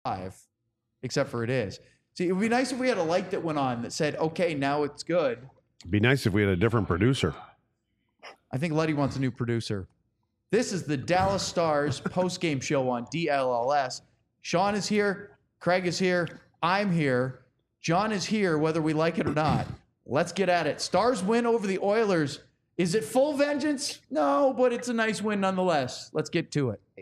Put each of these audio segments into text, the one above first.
5, except for it is. See, it would be nice if we had a light that went on that said, okay, now it's good. It'd be nice if we had a different producer. I think Letty wants a new producer. This is the Dallas Stars post-game show on DLLS. Sean is here. Craig is here. I'm here. John is here, whether we like it or not. Let's get at it. Stars win over the Oilers. Is it full vengeance? No, but it's a nice win nonetheless. Let's get to it.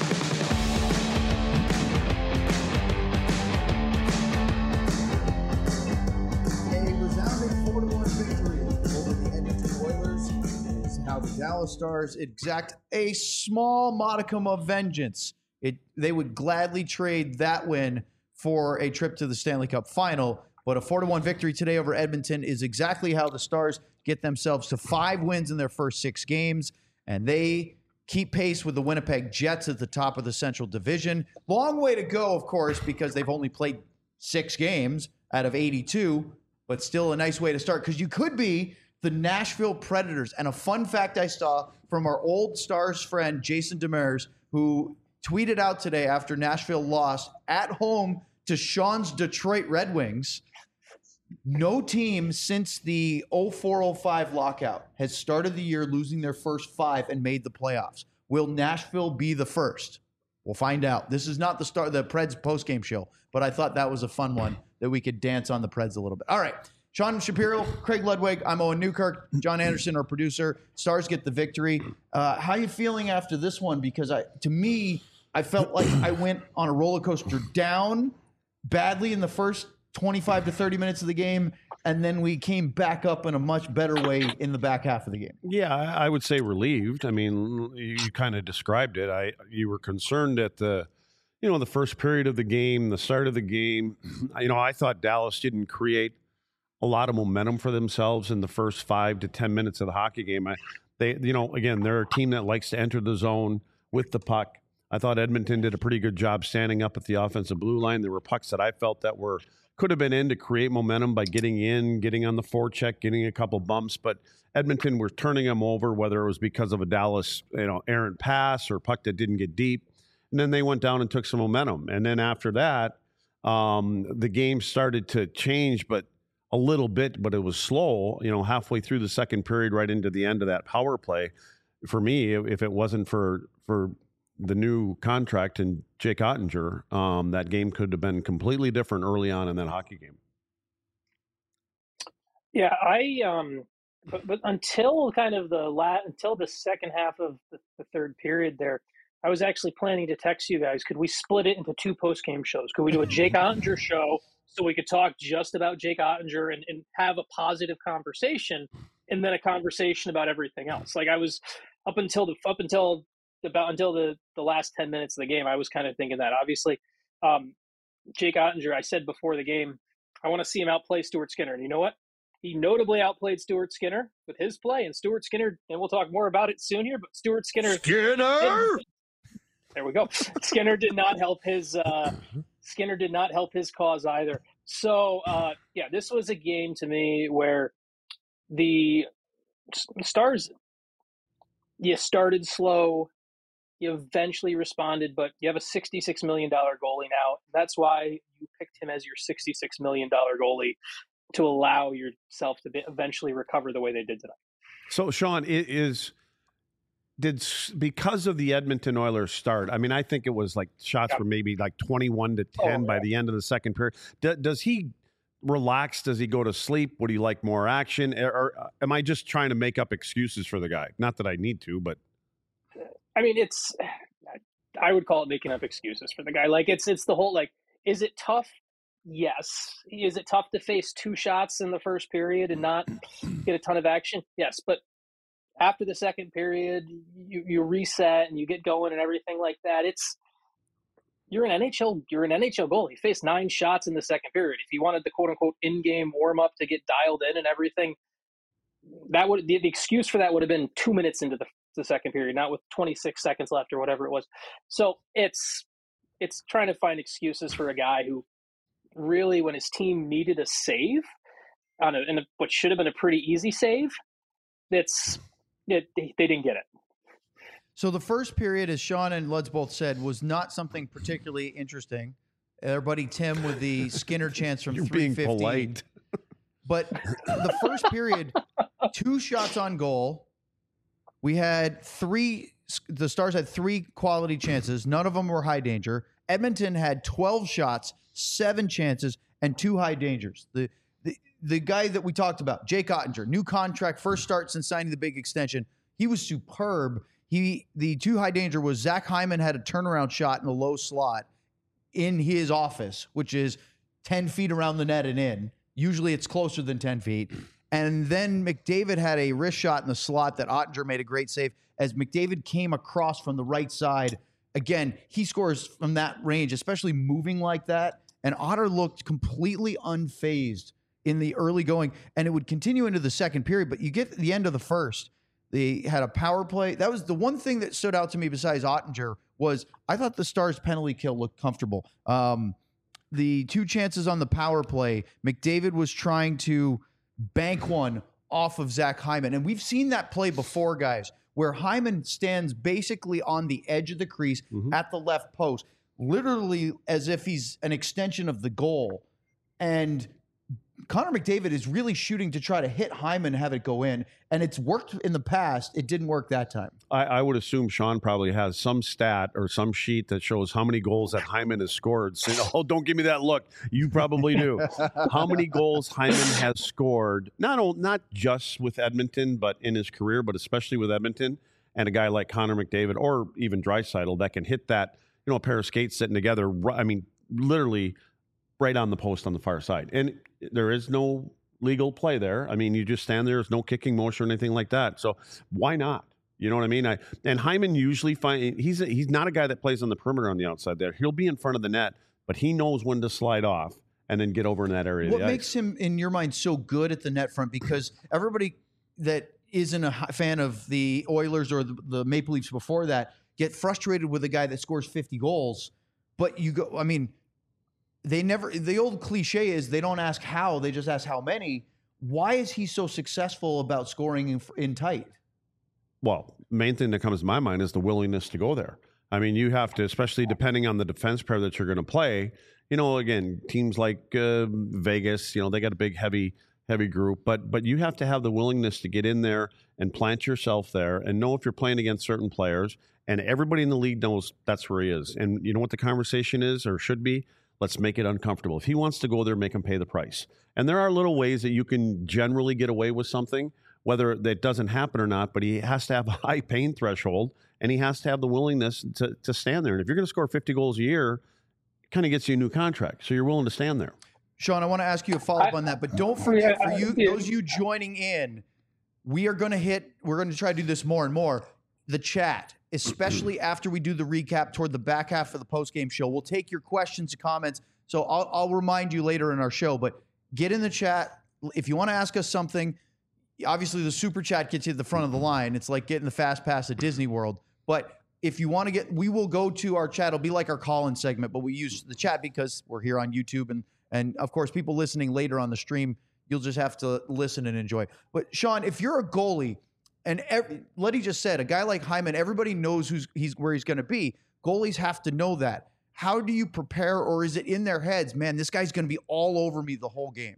The Dallas Stars exact a small modicum of vengeance. They would gladly trade that win for a trip to the Stanley Cup final, but a 4-1 victory today over Edmonton is exactly how the Stars get themselves to 5 wins in their first 6 games, and they keep pace with the Winnipeg Jets at the top of the Central Division. Long way to go, of course, because they've only played 6 games out of 82, but still a nice way to start, because you could be the Nashville Predators. And a fun fact I saw from our old Stars friend, Jason Demers, who tweeted out today after Nashville lost at home to Sean's Detroit Red Wings. No team since the 04-05 lockout has started the year losing their first 5 and made the playoffs. Will Nashville be the first? We'll find out. This is not the Preds postgame show, but I thought that was a fun one that we could dance on the Preds a little bit. All right. Sean Shapiro, Craig Ludwig, I'm Owen Newkirk, John Anderson, our producer. Stars get the victory. How are you feeling after this one? Because to me, I felt like I went on a roller coaster down badly in the first 25 to 30 minutes of the game, and then we came back up in a much better way in the back half of the game. Yeah, I would say relieved. I mean, you kind of described it. You were concerned at the first period of the game, the start of the game. I thought Dallas didn't create a lot of momentum for themselves in the first 5 to 10 minutes of the hockey game. Again, they're a team that likes to enter the zone with the puck. I thought Edmonton did a pretty good job standing up at the offensive blue line. There were pucks that I felt that could have been in to create momentum by getting in, getting on the forecheck, getting a couple bumps, but Edmonton were turning them over, whether it was because of a Dallas, errant pass or puck that didn't get deep. And then they went down and took some momentum. And then after that, the game started to change, but a little bit, but it was slow, halfway through the second period, right into the end of that power play. For me, if it wasn't for the new contract and Jake Ottinger, that game could have been completely different early on in that hockey game. Yeah, but until kind of until the second half of the third period there, I was actually planning to text you guys. Could we split it into 2 post-game shows? Could we do a Jake Ottinger show so we could talk just about Jake Ottinger and have a positive conversation, and then a conversation about everything else? Like, I was up until the last 10 minutes of the game, I was kind of thinking that. Obviously, Jake Ottinger, I said before the game, I want to see him outplay Stuart Skinner. And you know what? He notably outplayed Stuart Skinner with his play, and Stuart Skinner, and we'll talk more about it soon here, but Stuart Skinner. There we go. Skinner did not help his cause either. So, this was a game to me where the Stars, you started slow, you eventually responded, but you have a $66 million goalie now. That's why you picked him as your $66 million goalie, to allow yourself to eventually recover the way they did tonight. So, Sean, because of the Edmonton Oilers start, I mean, I think it was like shots were maybe like 21-10 by the end of the second period. Does he relax? Does he go to sleep? Would he like more action? Or am I just trying to make up excuses for the guy? Not that I need to, but. I mean, I would call it making up excuses for the guy. Like, it's the whole, like, is it tough? Yes. Is it tough to face 2 shots in the first period and not get a ton of action? Yes. But after the second period, you reset and you get going and everything like that. You're an NHL goalie. You faced 9 shots in the second period. If you wanted the quote unquote in-game warm up to get dialed in and everything, the excuse for that would have been 2 minutes into the second period, not with 26 seconds left or whatever it was. So it's trying to find excuses for a guy who really, when his team needed a save on what should have been a pretty easy save, they didn't get it. So the first period, as Sean and Luds both said, was not something particularly interesting. Our buddy Tim with the Skinner chance from You're being 315. polite. But the first period, 2 shots on goal. We had the Stars had 3 quality chances. None of them were high danger. Edmonton had 12 shots, 7 chances, and 2 high dangers. The guy that we talked about, Jake Ottinger, new contract, first start since signing the big extension. He was superb. The 2 high danger was Zach Hyman had a turnaround shot in the low slot in his office, which is 10 feet around the net and in. Usually it's closer than 10 feet. And then McDavid had a wrist shot in the slot that Ottinger made a great save as McDavid came across from the right side. Again, he scores from that range, especially moving like that. And Otter looked completely unfazed in the early going, and it would continue into the second period. But you get to the end of the first, they had a power play. That was the one thing that stood out to me besides Ottinger was I thought the Stars' penalty kill looked comfortable. The 2 chances on the power play, McDavid was trying to bank one off of Zach Hyman. And we've seen that play before, guys, where Hyman stands basically on the edge of the crease at the left post, literally as if he's an extension of the goal. And Connor McDavid is really shooting to try to hit Hyman and have it go in. And it's worked in the past. It didn't work that time. I would assume Sean probably has some stat or some sheet that shows how many goals that Hyman has scored. So, oh, don't give me that look. You probably do. How many goals Hyman has scored, not just with Edmonton, but in his career, but especially with Edmonton, and a guy like Connor McDavid or even Draisaitl that can hit that, a pair of skates sitting together, I mean, literally right on the post on the far side. And there is no legal play there. I mean, you just stand there. There's no kicking motion or anything like that. So why not? You know what I mean? And Hyman usually he's not a guy that plays on the perimeter on the outside there. He'll be in front of the net, but he knows when to slide off and then get over in that area. What makes him, in your mind, so good at the net front? Because everybody that isn't a fan of the Oilers or the Maple Leafs before that get frustrated with a guy that scores 50 goals. But the old cliche is they don't ask how, they just ask how many. Why is he so successful about scoring in tight? Well, main thing that comes to my mind is the willingness to go there. I mean, you have to, especially depending on the defense pair that you're going to play, again, teams like Vegas, they got a big, heavy group, but you have to have the willingness to get in there and plant yourself there and know if you're playing against certain players, and everybody in the league knows that's where he is. And you know what the conversation is or should be? Let's make it uncomfortable. If he wants to go there, make him pay the price. And there are little ways that you can generally get away with something, whether that doesn't happen or not, but he has to have a high pain threshold, and he has to have the willingness to stand there. And if you're going to score 50 goals a year, it kind of gets you a new contract. So you're willing to stand there. Sean, I want to ask you a follow-up on that, but don't forget, for you, those of you joining in, we're going to try to do this more and more, the chat, especially after we do the recap toward the back half of the post-game show. We'll take your questions and comments. So I'll remind you later in our show, but get in the chat. If you want to ask us something, obviously the super chat gets you at the front of the line. It's like getting the fast pass at Disney World. But if you want to we will go to our chat. It'll be like our call-in segment, but we use the chat because we're here on YouTube. And of course, people listening later on the stream, you'll just have to listen and enjoy. But Sean, if you're a goalie, and Letty just said, a guy like Hyman, everybody knows where he's going to be. Goalies have to know that. How do you prepare, or is it in their heads, man, this guy's going to be all over me the whole game?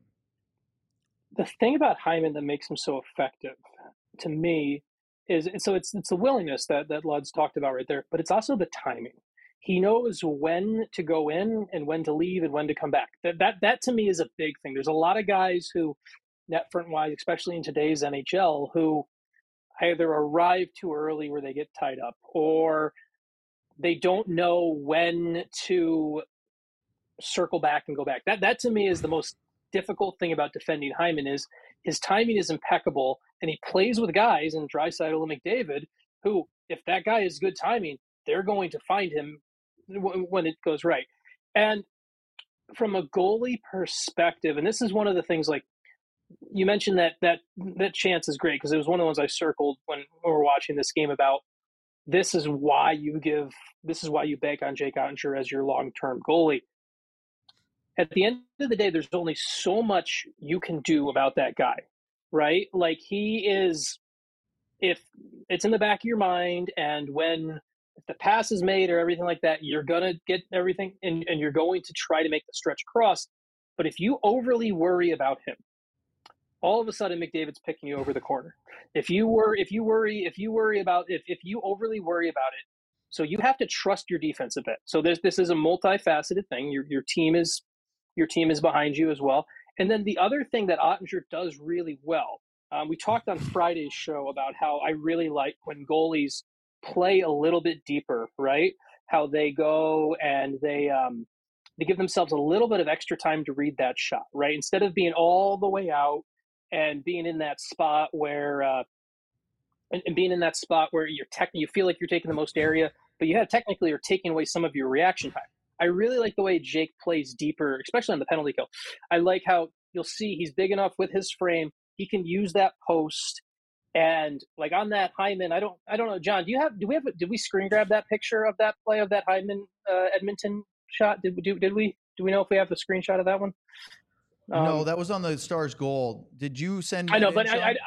The thing about Hyman that makes him so effective, to me, is it's the willingness that Lud's talked about right there, but it's also the timing. He knows when to go in and when to leave and when to come back. That to me is a big thing. There's a lot of guys who, net front wise, especially in today's NHL, who either arrive too early where they get tied up, or they don't know when to circle back and go back. That to me is the most difficult thing about defending Hyman is his timing is impeccable, and he plays with guys in Draisaitl and McDavid who, if that guy has good timing, they're going to find him when it goes right. And from a goalie perspective, and this is one of the things, like you mentioned that chance is great because it was one of the ones I circled when we were watching this game about this is why you bank on Jake Ottinger as your long-term goalie. At the end of the day, there's only so much you can do about that guy, right? Like he is, if it's in the back of your mind, and when if the pass is made or everything like that, you're going to get everything and you're going to try to make the stretch across. But if you overly worry about him, all of a sudden McDavid's picking you over the corner. If you overly worry about it, so you have to trust your defense a bit. So this is a multifaceted thing. Your team is behind you as well. And then the other thing that Ottinger does really well, we talked on Friday's show about how I really like when goalies play a little bit deeper, right? How they go and they give themselves a little bit of extra time to read that shot, right? Instead of being all the way out and being in that spot where you feel like you're taking the most area, but you have technically are taking away some of your reaction time. I really like the way Jake plays deeper, especially on the penalty kill. I like how you'll see he's big enough with his frame. He can use that post. And like on that Hyman, I don't know, John, did we screen grab that picture of that play of that Hyman Edmonton shot? Do we know if we have the screenshot of that one? No, that was on the Stars goal. Did you send? I know, but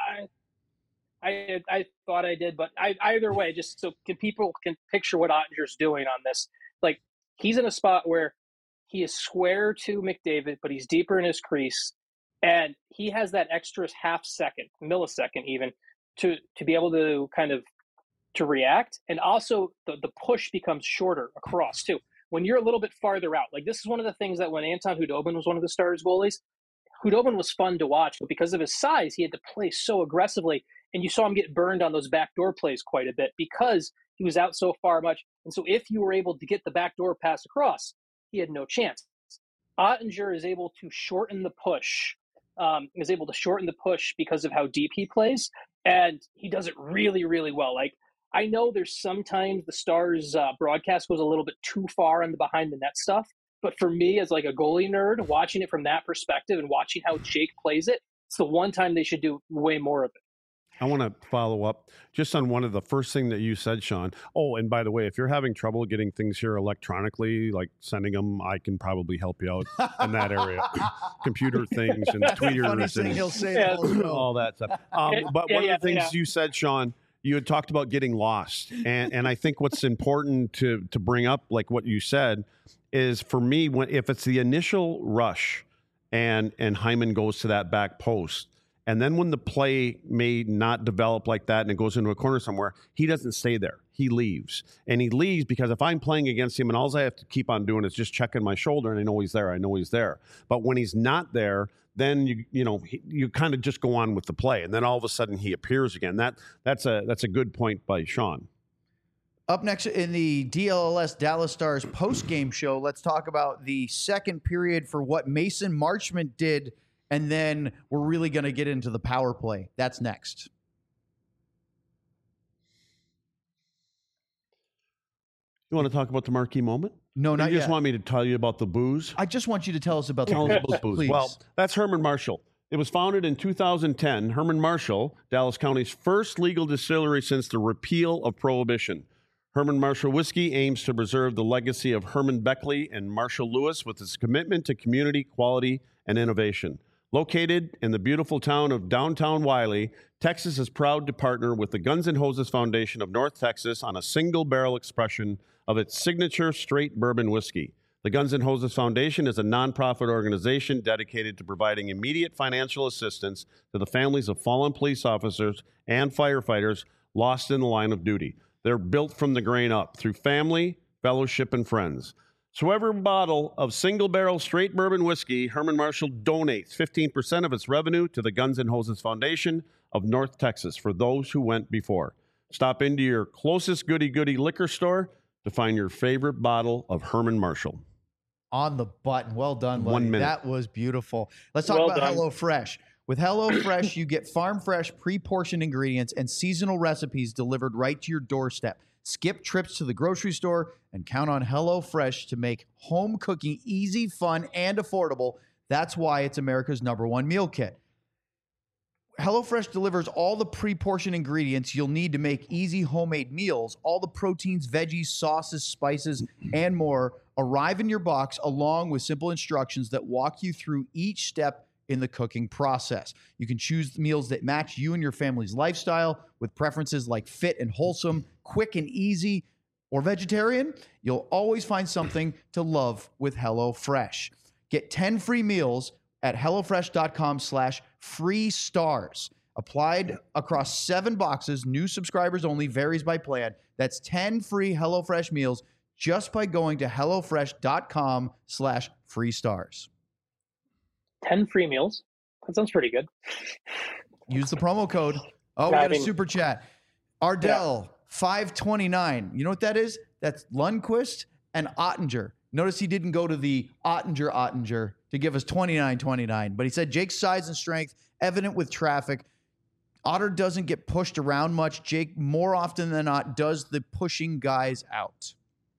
I thought I did, but either way, just so people can picture what Ottinger's doing on this. Like he's in a spot where he is square to McDavid, but he's deeper in his crease, and he has that extra millisecond even to be able to kind of to react, and also the push becomes shorter across too. When you're a little bit farther out, like this is one of the things that when Anton Khudobin was one of the Stars goalies, Khudobin was fun to watch, but because of his size, he had to play so aggressively, and you saw him get burned on those backdoor plays quite a bit because he was out so far much. And so if you were able to get the backdoor pass across, he had no chance. Ottinger is able to shorten the push, because of how deep he plays, and he does it really, really well. Like, I know there's sometimes the Stars broadcast goes a little bit too far on the behind the net stuff, but for me as like a goalie nerd, watching it from that perspective and watching how Jake plays it, it's the one time they should do way more of it. I want to follow up just on one of the first thing that you said, Sean. Oh, and by the way, if you're having trouble getting things here electronically, like sending them, I can probably help you out in that area. Computer things and tweeters and he'll say all that stuff. But one of the things you said, Sean, you had talked about getting lost. And I think what's important to bring up, like what you said, is for me, if it's the initial rush and Hyman goes to that back post, and then when the play may not develop like that and it goes into a corner somewhere, he doesn't stay there. He leaves. And he leaves because if I'm playing against him and all I have to keep on doing is just checking my shoulder and I know he's there. But when he's not there, then you kind of just go on with the play. And then all of a sudden he appears again. That's a good point by Sean. Up next in the DLLS Dallas Stars post-game show, let's talk about the second period for what Mason Marchment did. And then we're really going to get into the power play. That's next. You want to talk about the marquee moment? No, not yet. You just want me to tell you about the booze? I just want you to tell us about the booze. Please. Well, that's Herman Marshall. It was founded in 2010. Herman Marshall, Dallas County's first legal distillery since the repeal of Prohibition. Herman Marshall Whiskey aims to preserve the legacy of Herman Beckley and Marshall Lewis with its commitment to community, quality, and innovation. Located in the beautiful town of downtown Wiley, Texas is proud to partner with the Guns N' Hoses Foundation of North Texas on a single-barrel expression of its signature straight bourbon whiskey. The Guns N' Hoses Foundation is a nonprofit organization dedicated to providing immediate financial assistance to the families of fallen police officers and firefighters lost in the line of duty. They're built from the grain up through family, fellowship, and friends. So every bottle of single-barrel straight bourbon whiskey, Herman Marshall donates 15% of its revenue to the Guns N' Hoses Foundation of North Texas for those who went before. Stop into your closest goody-goody liquor store to find your favorite bottle of Herman Marshall. On the button. Well done, buddy. 1 minute. That was beautiful. Let's talk about HelloFresh. With HelloFresh, you get farm-fresh, pre-portioned ingredients and seasonal recipes delivered right to your doorstep. Skip trips to the grocery store and count on HelloFresh to make home cooking easy, fun, and affordable. That's why it's America's #1 meal kit. HelloFresh delivers all the pre-portioned ingredients you'll need to make easy homemade meals. All the proteins, veggies, sauces, spices, and more arrive in your box along with simple instructions that walk you through each step in the cooking process. You can choose meals that match you and your family's lifestyle with preferences like fit and wholesome, quick and easy, or vegetarian, you'll always find something to love with HelloFresh. Get 10 free meals at HelloFresh.com/free stars. Applied across 7 boxes, new subscribers only, varies by plan. That's 10 free HelloFresh meals just by going to HelloFresh.com/free stars. 10 free meals? That sounds pretty good. Use the promo code. Oh, we got a super chat. Ardell, 529. You know what that is? That's Lundqvist and Ottinger. Notice he didn't go to the Ottinger to give us 29.29, but he said Jake's size and strength evident with traffic. Otter doesn't get pushed around much. Jake, more often than not, does the pushing guys out.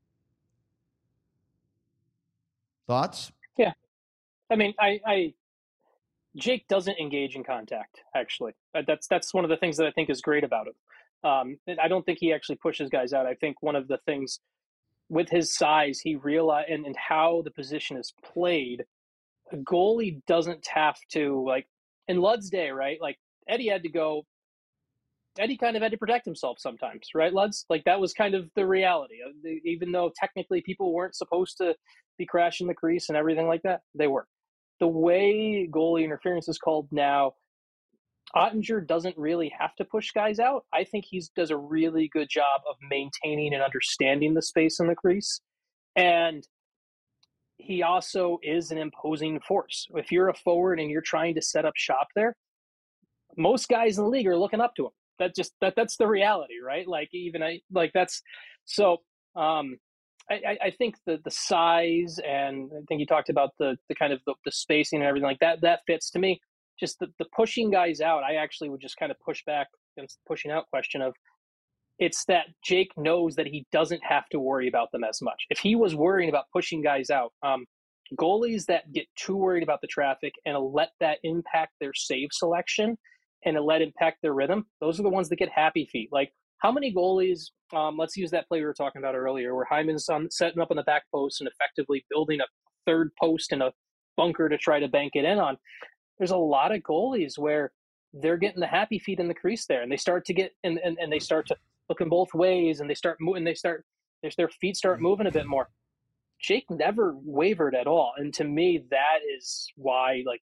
Thoughts? Yeah. I mean, Jake doesn't engage in contact, actually. That's one of the things that I think is great about him. I don't think he actually pushes guys out. I think one of the things with his size, he realized, and how the position is played, a goalie doesn't have to, like, in Lud's day, right? Like, Eddie kind of had to protect himself sometimes, right, Luds? Like, that was kind of the reality. Even though technically people weren't supposed to be crashing the crease and everything like that, they were. The way goalie interference is called now, Ottinger doesn't really have to push guys out. I think he does a really good job of maintaining and understanding the space in the crease. And he also is an imposing force. If you're a forward and you're trying to set up shop there, most guys in the league are looking up to him. That's the reality, right? Like, I think the size, and I think you talked about the kind of the spacing and everything like that. That fits to me. Just the pushing guys out. I actually would just kind of push back against the pushing out question of, it's that Jake knows that he doesn't have to worry about them as much. If he was worrying about pushing guys out, goalies that get too worried about the traffic and let that impact their save selection and let impact their rhythm, those are the ones that get happy feet. Like, how many goalies, let's use that play we were talking about earlier, where Hyman's setting up on the back post and effectively building a third post in a bunker to try to bank it in on. There's a lot of goalies where they're getting the happy feet in the crease there, and they start to get and they start to look in both ways, and they start moving. Their feet start moving a bit more. Jake never wavered at all, and to me, that is why, like,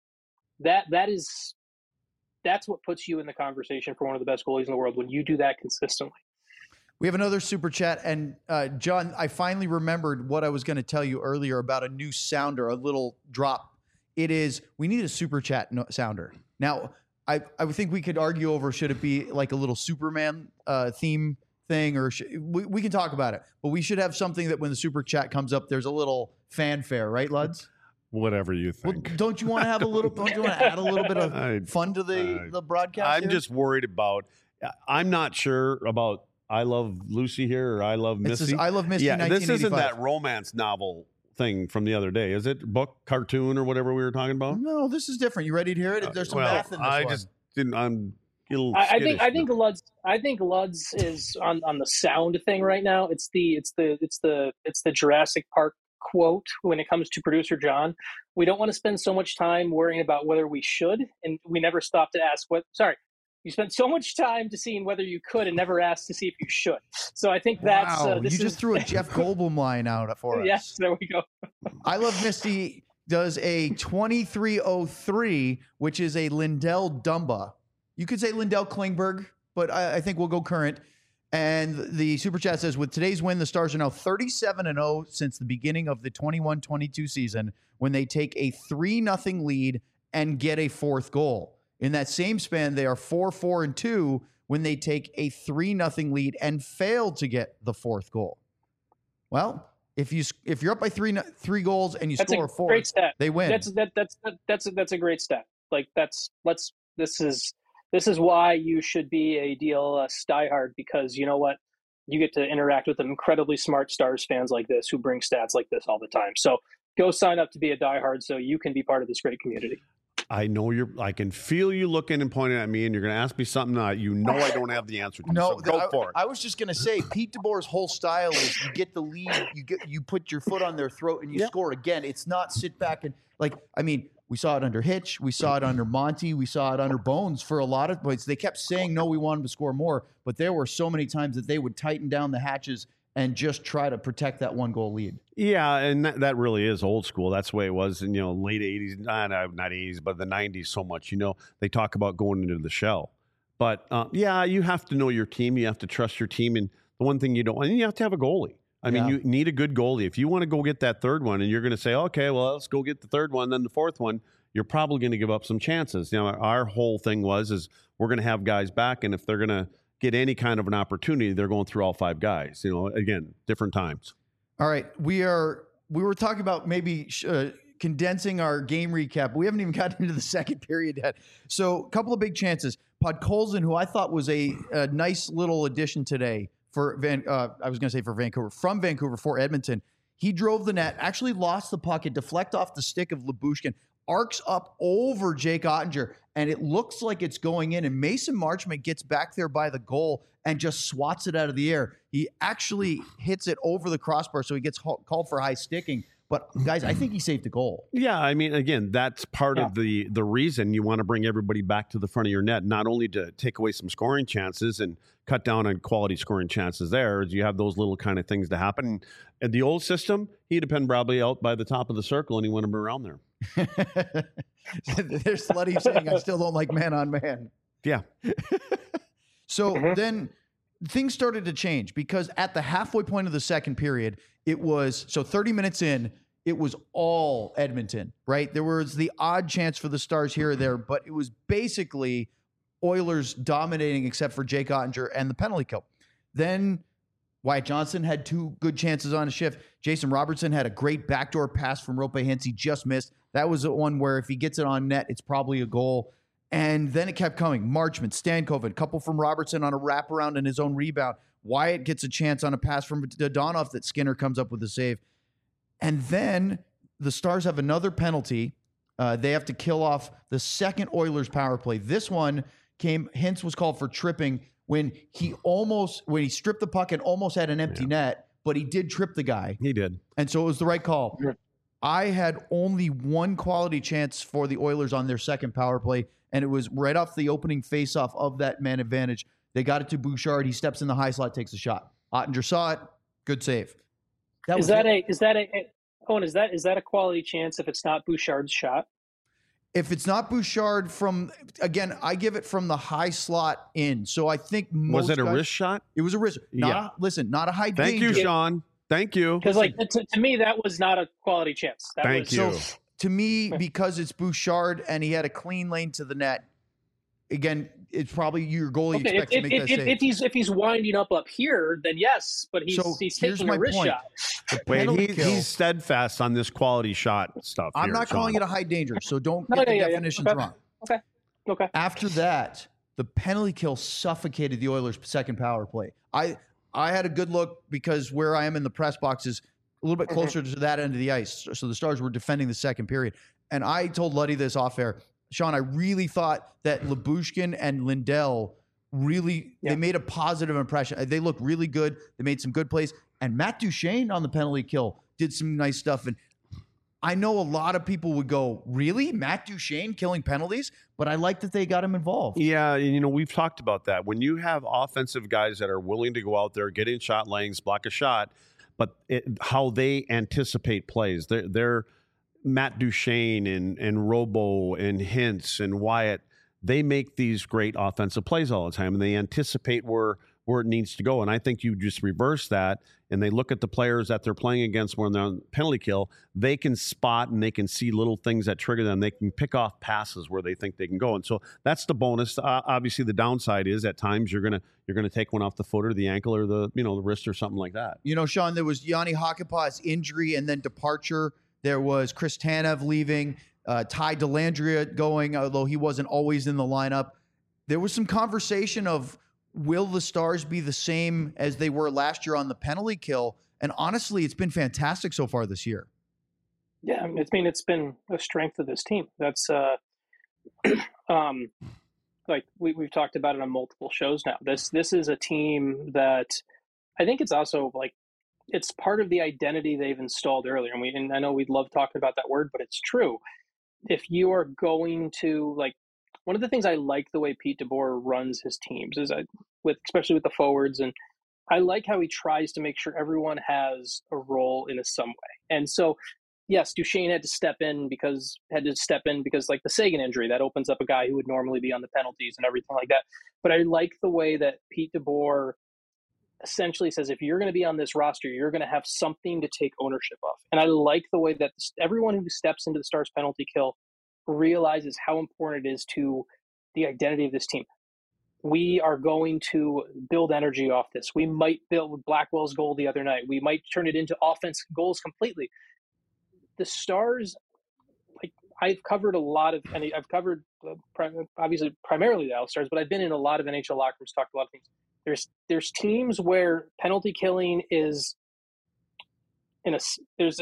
that's what puts you in the conversation for one of the best goalies in the world, when you do that consistently. We have another super chat, and John, I finally remembered what I was going to tell you earlier about a new sounder, a little drop. It is, we need a super chat sounder. Now, I think we could argue over, should it be like a little Superman theme thing, or we can talk about it, but we should have something that when the super chat comes up, there's a little fanfare, right, Luds? Whatever you think. Well, don't you want to have a little? Don't you want to add a little bit of fun to the broadcast? I'm just worried about. I'm not sure about I Love Lucy here or I Love Missy. I Love Missy. Yeah, this isn't that romance novel thing from the other day, is it? Book, cartoon, or whatever we were talking about? No, this is different. You ready to hear it? There's some math in this one. Just didn't. I'm. I think Luds is on the sound thing right now. It's the Jurassic Park quote when it comes to producer John. We don't want to spend so much time worrying about whether we should, and we never stop to ask what. Sorry, you spent so much time to seeing whether you could and never asked to see if you should. So I think that's you just threw a Jeff Goldblum line out for us. Yes, there we go. I Love Misty does a 2303, which is a Lindell Dumba. You could say Lindell Klingberg, but I think we'll go current. And the super chat says, with today's win, the Stars are now 37-0 since the beginning of the 21-22 season, when they take a 3-0 lead and get a fourth goal. In that same span, they are 4-4-2 when they take a 3-0 lead and fail to get the fourth goal. Well, if you're up by three goals and you score a fourth, great stat. They win. That's a great stat. Like, this is why you should be a DLS diehard, because you know what? You get to interact with incredibly smart Stars fans like this who bring stats like this all the time. So go sign up to be a diehard so you can be part of this great community. I know I can feel you looking and pointing at me, and you're going to ask me something I don't have the answer to. No, so go for it. I was just going to say, Pete DeBoer's whole style is you get the lead, you put your foot on their throat, and you score again. It's not sit back and we saw it under Hitch, we saw it under Monty, we saw it under Bones for a lot of points. They kept saying, no, we wanted to score more, but there were so many times that they would tighten down the hatches and just try to protect that 1-goal lead. Yeah, and that really is old school. That's the way it was in, late 80s, not 80s, but the 90s so much. They talk about going into the shell. But, you have to know your team. You have to trust your team. And the one thing you don't – and you have to have a goalie. I mean, you need a good goalie. If you want to go get that third one and you're going to say, okay, well, let's go get the third one, then the fourth one, you're probably going to give up some chances. Our whole thing is we're going to have guys back, and if they're going to get any kind of an opportunity, they're going through all 5 guys. Again, different times. All right, we were talking about maybe condensing our game recap. We haven't even gotten into the second period yet. So a couple of big chances. Podkolzin, who I thought was a nice little addition today for Vancouver, from Vancouver for Edmonton. He drove the net, actually lost the puck. It deflected off the stick of Lyubushkin, arcs up over Jake Ottinger, and it looks like it's going in. And Mason Marchment gets back there by the goal and just swats it out of the air. He actually hits it over the crossbar, so he gets called for high sticking. But, guys, I think he saved the goal. Yeah, I mean, again, that's part of the reason you want to bring everybody back to the front of your net, not only to take away some scoring chances and cut down on quality scoring chances there, as you have those little kind of things to happen. In the old system, he'd have been probably out by the top of the circle, and he wouldn't have been around there. There's Slutty saying, I still don't like man-on-man. Yeah. So then things started to change because at the halfway point of the second period, it was, 30 minutes in, it was all Edmonton, right? There was the odd chance for the Stars here or there, but it was basically Oilers dominating except for Jake Ottinger and the penalty kill. Then Wyatt Johnston had 2 good chances on a shift. Jason Robertson had a great backdoor pass from Rope Hintz. He just missed. That was the one where if he gets it on net, it's probably a goal. And then it kept coming. Marchment, Stankoven, couple from Robertson on a wraparound and his own rebound. Wyatt gets a chance on a pass from Dadonov that Skinner comes up with a save. And then the Stars have another penalty. They have to kill off the second Oilers power play. This one Hintz was called for tripping when he stripped the puck and almost had an empty net, but he did trip the guy. He did. And so it was the right call. I had only one quality chance for the Oilers on their second power play, and it was right off the opening faceoff of that man advantage. They got it to Bouchard. He steps in the high slot, takes a shot. Ottinger saw it. Good save. Is that a quality chance if it's not Bouchard's shot? If it's not Bouchard I give it from the high slot in. So I think was it a wrist shot? It was a wrist. Not a high danger. Thank you, Sean. Thank you. Because to me, that was not a quality chance. Thank you. So to me, because it's Bouchard and he had a clean lane to the net, again, it's probably your goalie expects to make that save. If he's winding up here, then yes, but he's taking a wrist shot. Wait, he's steadfast on this quality shot stuff. I'm not calling it a high danger, so don't get the definitions wrong. Okay. After that, the penalty kill suffocated the Oilers' second power play. I had a good look because where I am in the press box is a little bit closer to that end of the ice. So the Stars were defending the second period. And I told Luddy this off air. Sean, I really thought that Lyubushkin and Lindell they made a positive impression. They looked really good. They made some good plays. And Matt Duchene on the penalty kill did some nice stuff. And I know a lot of people would go, really? Matt Duchene killing penalties? But I like that they got him involved. Yeah, we've talked about that. When you have offensive guys that are willing to go out there, get in shot lanes, block a shot, but how they anticipate plays. They're Matt Duchene and Robo and Hintz and Wyatt, they make these great offensive plays all the time, and they anticipate where it needs to go. And I think you just reverse that, and they look at the players that they're playing against when they're on penalty kill. They can spot and they can see little things that trigger them. They can pick off passes where they think they can go. And so that's the bonus. Obviously, the downside is at times you're gonna take one off the foot or the ankle or the wrist or something like that. Sean, there was Yanni Hakanpää's injury and then departure. There was Chris Tanev leaving, Ty Dellandrea going, although he wasn't always in the lineup. There was some conversation of, will the Stars be the same as they were last year on the penalty kill? And honestly, it's been fantastic so far this year. Yeah, it's been a strength of this team. That's like we've talked about it on multiple shows now. This is a team that I think it's also it's part of the identity they've installed earlier. And I know we love talking about that word, but it's true. If you are going to one of the things I like the way Pete DeBoer runs his teams is especially with the forwards and I like how he tries to make sure everyone has a role in some way. And so, yes, Duchesne had to step in because like the Sagan injury that opens up a guy who would normally be on the penalties and everything like that. But I like the way that Pete DeBoer essentially says, if you're going to be on this roster, you're going to have something to take ownership of. And I like the way that everyone who steps into the Stars penalty kill realizes how important it is to the identity of this team. We are going to build energy off this. We might build Blackwell's goal the other night. We might turn it into offense goals completely. The Stars, like, I've covered a lot of, and I've covered obviously primarily the Stars, but I've been in a lot of NHL locker rooms, talked to a lot of teams. There's teams where penalty killing is there's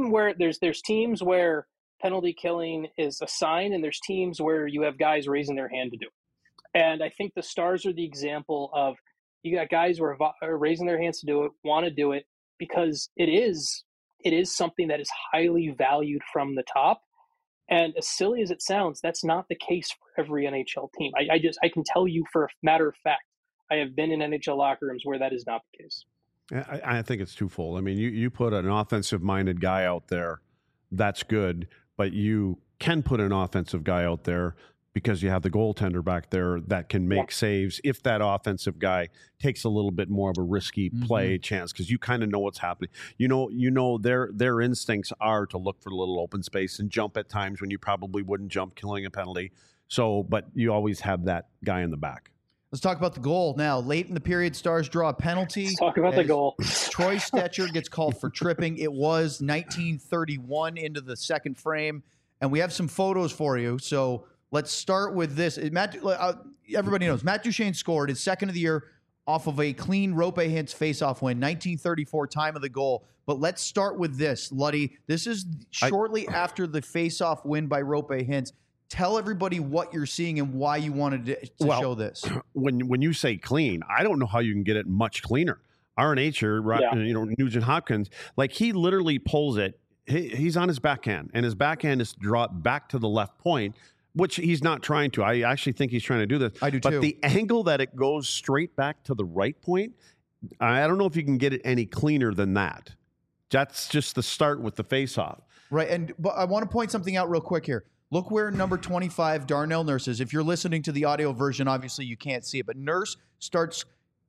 teams where penalty killing is a sign, and there's teams where you have guys raising their hand to do it. And I think the Stars are the example of, you got guys who are raising their hands to do it, want to do it, because it is something that is highly valued from the top. And as silly as it sounds, that's not the case for every NHL team. I can tell you for a matter of fact, I have been in NHL locker rooms where that is not the case. I think it's twofold. I mean, you put an offensive-minded guy out there, that's good, but you can put an offensive guy out there because you have the goaltender back there that can make saves if that offensive guy takes a little bit more of a risky play chance, because you kind of know what's happening. You know their instincts are to look for a little open space and jump at times when you probably wouldn't jump, killing a penalty. So, but you always have that guy in the back. Let's talk about the goal now. Late in the period, Stars draw a penalty. Let's talk about the goal. Troy Stecher gets called for tripping. It was 1931 into the second frame, and we have some photos for you. So let's start with this. Everybody knows Matt Duchesne scored his second of the year off of a clean Roope Hintz faceoff win, 1934 time of the goal. But let's start with this, Luddy. This is shortly after the faceoff win by Roope Hintz. Tell everybody what you're seeing and why you wanted to show this. When you say clean, I don't know how you can get it much cleaner. RNH or Nugent Hopkins, like, he literally pulls it. He's on his backhand, and his backhand is dropped back to the left point, which he's not trying to. I actually think he's trying to do this. I do too. But the angle that it goes straight back to the right point, I don't know if you can get it any cleaner than that. That's just the start with the faceoff. Right, but I want to point something out real quick here. Look where number 25, Darnell Nurse, is. If you're listening to the audio version, obviously you can't see it, but Nurse starts,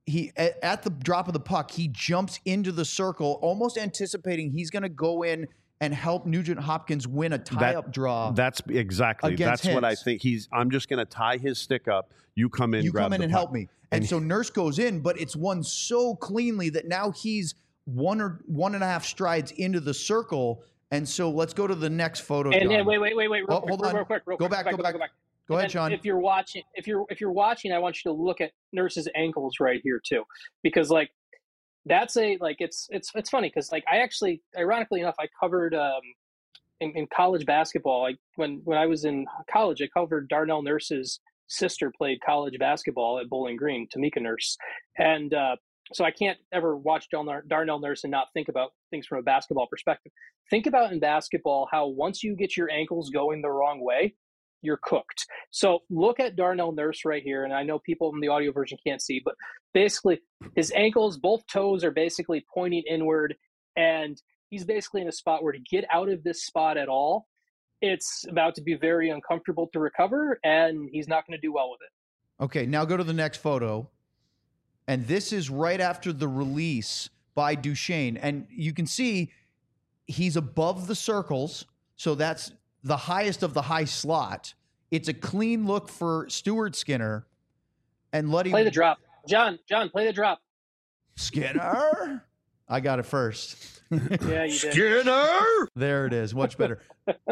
at the drop of the puck, he jumps into the circle, almost anticipating he's going to go in and help Nugent Hopkins win a tie-up draw. That's exactly. That's what I think. I'm just going to tie his stick up. You come in, grab the and puck. help me. And so Nurse goes in, but it's won so cleanly that now he's one and a half strides into the circle. And so let's go to the next photo. And then wait, real quick. Go back. Go ahead, Sean. If you're watching, I want you to look at Nurse's ankles right here too, because like that's it's funny because like I actually, ironically enough, I covered in college basketball. Like when I was in college, I covered Darnell Nurse's sister played college basketball at Bowling Green, Tamika Nurse, and so I can't ever watch Darnell Nurse and not think about things from a basketball perspective. Think about in basketball how once you get your ankles going the wrong way, you're cooked. So look at Darnell Nurse right here, and I know people in the audio version can't see, but basically his ankles, both toes are basically pointing inward, and he's basically in a spot where to get out of this spot at all, it's about to be very uncomfortable to recover, and he's not going to do well with it. Okay, now go to the next photo. And this is right after the release by Duchesne. And you can see he's above the circles. So that's the highest of the high slot. It's a clean look for Stuart Skinner. And Luddy. Play the drop. John, play the drop. Skinner? I got it first. Yeah, you did. Skinner! There it is. Much better.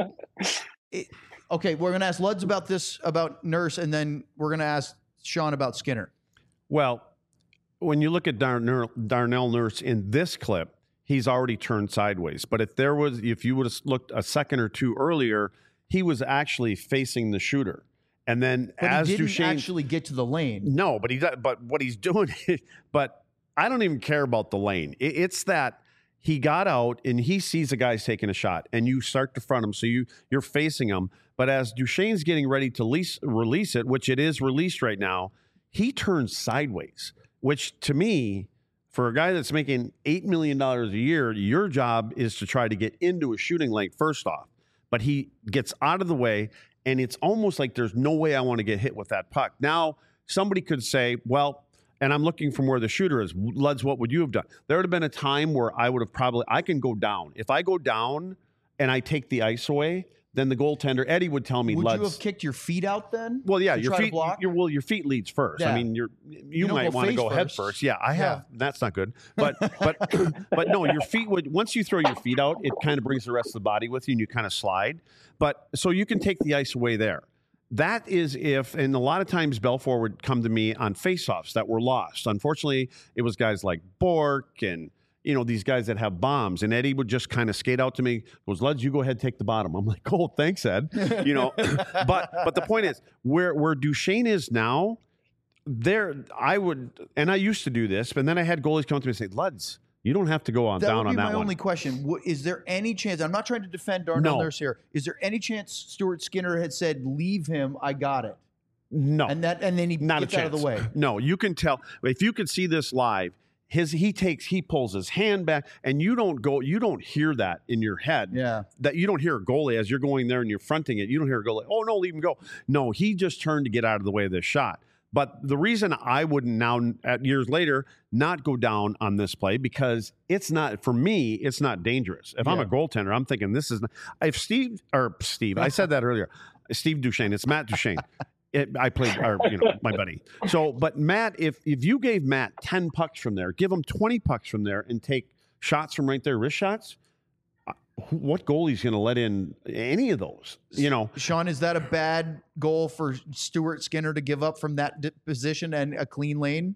Okay, we're going to ask Luds about Nurse, and then we're going to ask Sean about Skinner. Well, when you look at Darnell Nurse in this clip, he's already turned sideways. But if you would have looked a second or two earlier, he was actually facing the shooter. And then but he didn't Duchesne actually get to the lane. No, but what he's doing, but I don't even care about the lane. It's that he got out and he sees the guy's taking a shot, and you start to front him, so you're facing him. But as Duchesne's getting ready to release it, which it is released right now, he turns sideways. Which to me, For a guy that's making $8 million a year, your job is to try to get into a shooting lane first off. But he gets out of the way, and it's almost like there's no way I want to get hit with that puck. Now, somebody could say, well, and I'm looking from where the shooter is. Luds, what would you have done? There would have been a time where I can go down. If I go down and I take the ice away, then the goaltender, Eddie, would tell me, would you have kicked your feet out then? Well, yeah, your feet. Your feet leads first. Yeah. I mean, you might want to go head first. Yeah, I have. That's not good. But no, your feet would. Once you throw your feet out, it kind of brings the rest of the body with you, and you kind of slide. But so you can take the ice away there. That is if, and a lot of times Belfour would come to me on faceoffs that were lost. Unfortunately, it was guys like Bork and these guys that have bombs, and Eddie would just kind of skate out to me, goes, Luds, you go ahead, take the bottom. I'm like, oh, thanks, Ed. But the point is, where Duchesne is now, I used to do this, but then I had goalies come to me and say, Luds, you don't have to go on down on that one. That would be my only question. Is there any chance, I'm not trying to defend Darnell Nurse here, is there any chance Stuart Skinner had said, leave him, I got it? No. And then he gets out of the way. No, you can tell. If you could see this live, he pulls his hand back, and you don't hear that in your head. Yeah. That you don't hear a goalie as you're going there and you're fronting it. You don't hear a goalie, oh no, leave him go. No, he just turned to get out of the way of this shot. But the reason I wouldn't now, years later, not go down on this play, because it's not, for me, it's not dangerous. If I'm a goaltender, I'm thinking this is not, if Steve, I said that earlier, Steve Duchesne, it's Matt Duchesne. I played, my buddy. So, but Matt, if you gave Matt 10 pucks from there, give him 20 pucks from there, and take shots from right there, wrist shots, what goalie's going to let in any of those? Sean, is that a bad goal for Stuart Skinner to give up from that position and a clean lane?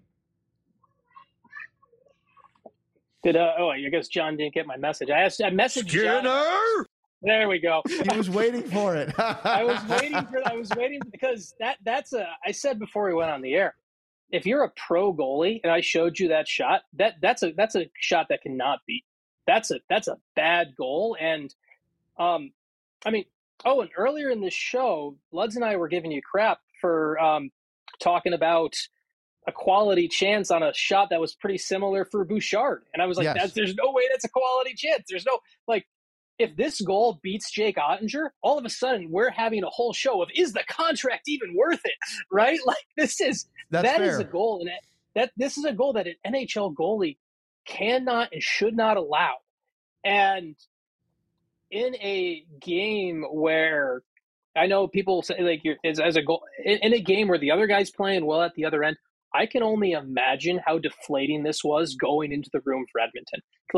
I guess John didn't get my message. I messaged Skinner. John. There we go. He was waiting for it. I was waiting because I said before we went on the air, if you're a pro goalie and I showed you that shot, that's a shot that cannot beat. That's a bad goal. And and earlier in this show, Luds and I were giving you crap for talking about a quality chance on a shot that was pretty similar for Bouchard. And I was like, yes. There's no way that's a quality chance. There's no, if this goal beats Jake Ottinger, all of a sudden we're having a whole show of, is the contract even worth it? Right? This is a goal. And this is a goal that an NHL goalie cannot and should not allow. And in a game where I know people say as a goal in a game where the other guy's playing well at the other end, I can only imagine how deflating this was going into the room for Edmonton.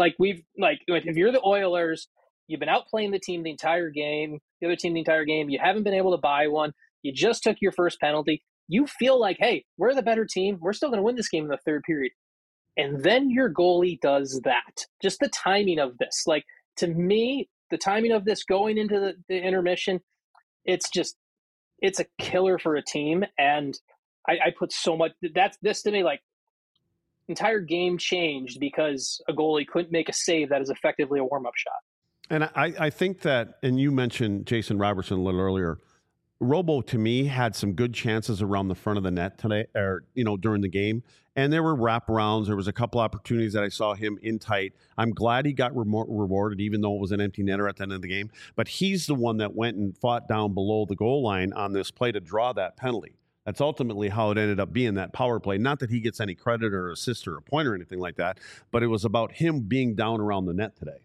If you're the Oilers, you've been outplaying the team the entire game, the other team the entire game. You haven't been able to buy one. You just took your first penalty. You feel like, hey, we're the better team. We're still going to win this game in the third period. And then your goalie does that. Just the timing of this. To me, the timing of this going into the intermission, it's a killer for a team. And I put so much, this to me, entire game changed because a goalie couldn't make a save that is effectively a warm-up shot. And I think that, and you mentioned Jason Robertson a little earlier, Robo, to me, had some good chances around the front of the net today, or during the game. And there were wraparounds. There was a couple opportunities that I saw him in tight. I'm glad he got rewarded, even though it was an empty netter at the end of the game. But he's the one that went and fought down below the goal line on this play to draw that penalty. That's ultimately how it ended up being, that power play. Not that he gets any credit or assist or a point or anything like that, but it was about him being down around the net today.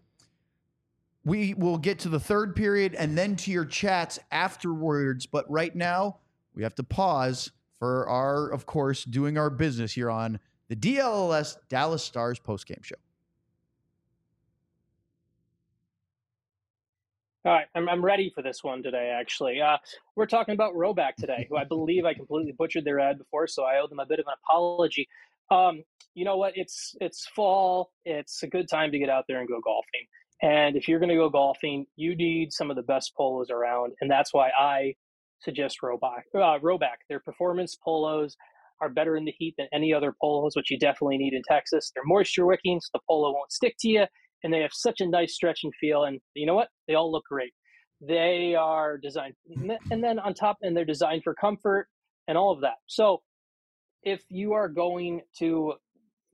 We will get to the third period and then to your chats afterwards. But right now, we have to pause for of course, doing our business here on the DLLS Dallas Stars postgame show. All right, I'm ready for this one today, actually. We're talking about Roback today, who I believe I completely butchered their ad before, so I owe them a bit of an apology. You know what? It's fall. It's a good time to get out there and go golfing. And if you're going to go golfing, you need some of the best polos around, and that's why I suggest Roback. Their performance polos are better in the heat than any other polos, which you definitely need in Texas. They're moisture wicking, so the polo won't stick to you, and they have such a nice stretch and feel. And you know what? They all look great. They are designed, and then on top, and they're designed for comfort and all of that. So if you are going to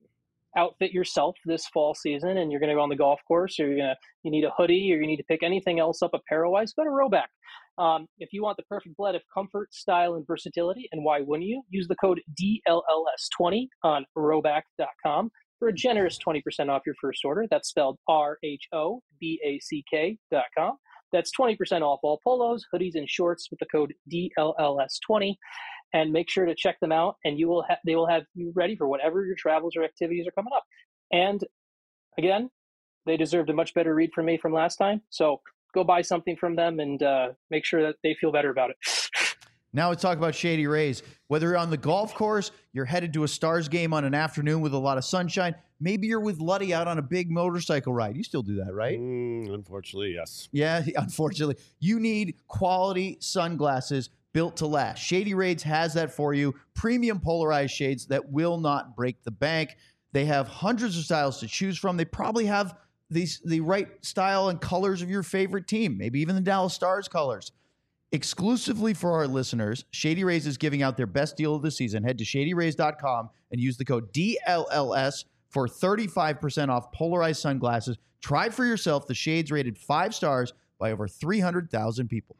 outfit yourself this fall season and you're going to go on the golf course, or you need a hoodie, or you need to pick anything else up apparel-wise, go to Rhoback. If you want the perfect blend of comfort, style, and versatility, and why wouldn't you, use the code DLLS20 on Rhoback.com for a generous 20% off your first order. That's spelled RHOBACK.com. That's 20% off all polos, hoodies, and shorts with the code DLLS20. And make sure to check them out, and they will have you ready for whatever your travels or activities are coming up. And again, they deserved a much better read from me from last time. So go buy something from them and make sure that they feel better about it. Now let's talk about Shady Rays. Whether you're on the golf course, you're headed to a Stars game on an afternoon with a lot of sunshine, maybe you're with Luddy out on a big motorcycle ride. You still do that, right? Unfortunately, yes. Yeah, unfortunately. You need quality sunglasses built to last. Shady Rays has that for you. Premium polarized shades that will not break the bank. They have hundreds of styles to choose from. They probably have the right style and colors of your favorite team, maybe even the Dallas Stars colors. Exclusively for our listeners, Shady Rays is giving out their best deal of the season. Head to shadyrays.com and use the code DLLS for 35% off polarized sunglasses. Try for yourself the shades rated 5 stars by over 300,000 people.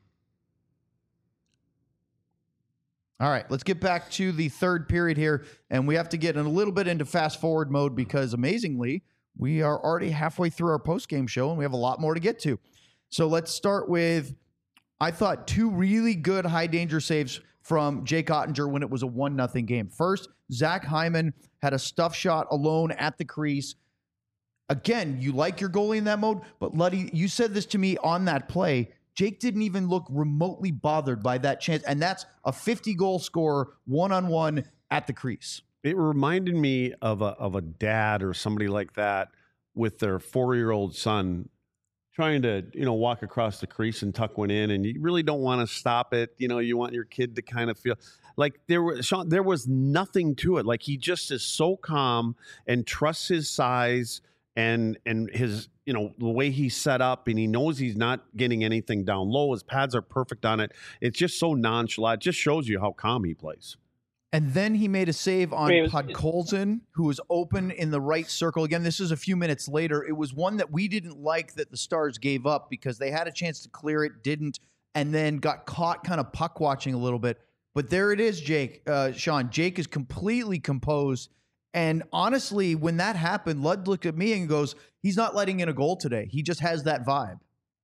All right, let's get back to the third period here, and we have to get a little bit into fast-forward mode because, amazingly, we are already halfway through our post-game show, and we have a lot more to get to. So let's start with, I thought, 2 really good high-danger saves from Jake Oettinger when it was a 1-0 game. First, Zach Hyman had a stuff shot alone at the crease. Again, you like your goalie in that mode, but Luddy, you said this to me on that play. Jake didn't even look remotely bothered by that chance, and that's a 50-goal scorer one-on-one at the crease. It reminded me of a dad or somebody like that with their 4-year-old son trying to, walk across the crease and tuck one in, and you really don't want to stop it. You want your kid to kind of feel like there was nothing to it. Like, he just is so calm and trusts his size and his, the way he's set up, and he knows he's not getting anything down low. His pads are perfect on it. It's just so nonchalant. It just shows you how calm he plays. And then he made a save on Podkolzin, who was open in the right circle. Again, this is a few minutes later. It was one that we didn't like that the Stars gave up because they had a chance to clear it, didn't, and then got caught kind of puck watching a little bit. But there it is, Sean. Jake is completely composed. And honestly, when that happened, Lud looked at me and goes, he's not letting in a goal today. He just has that vibe.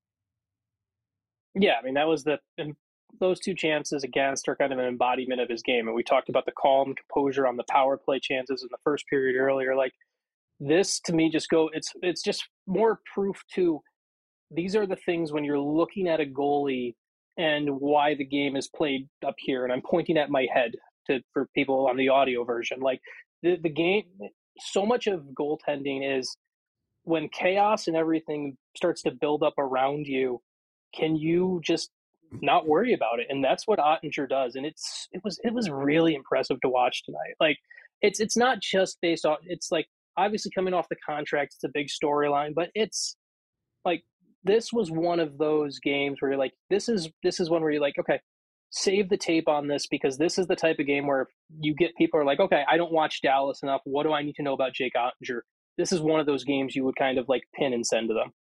Yeah, I mean, that was those 2 chances against are kind of an embodiment of his game. And we talked about the calm composure on the power play chances in the first period earlier. Like, this to me it's just more proof to these are the things when you're looking at a goalie and why the game is played up here. And I'm pointing at my head for people on the audio version. Like, the game, so much of goaltending is when chaos and everything starts to build up around you, can you just not worry about it? And that's what Oettinger does. And it was really impressive to watch tonight. Like, it's not just based on, it's like, obviously coming off the contract, it's a big storyline, but it's like, this was one of those games where you're like, this is one where you're like, okay, save the tape on this, because this is the type of game where you get people are like, okay, I don't watch Dallas enough. What do I need to know about Jake Oettinger? This is one of those games you would kind of like pin and send to them.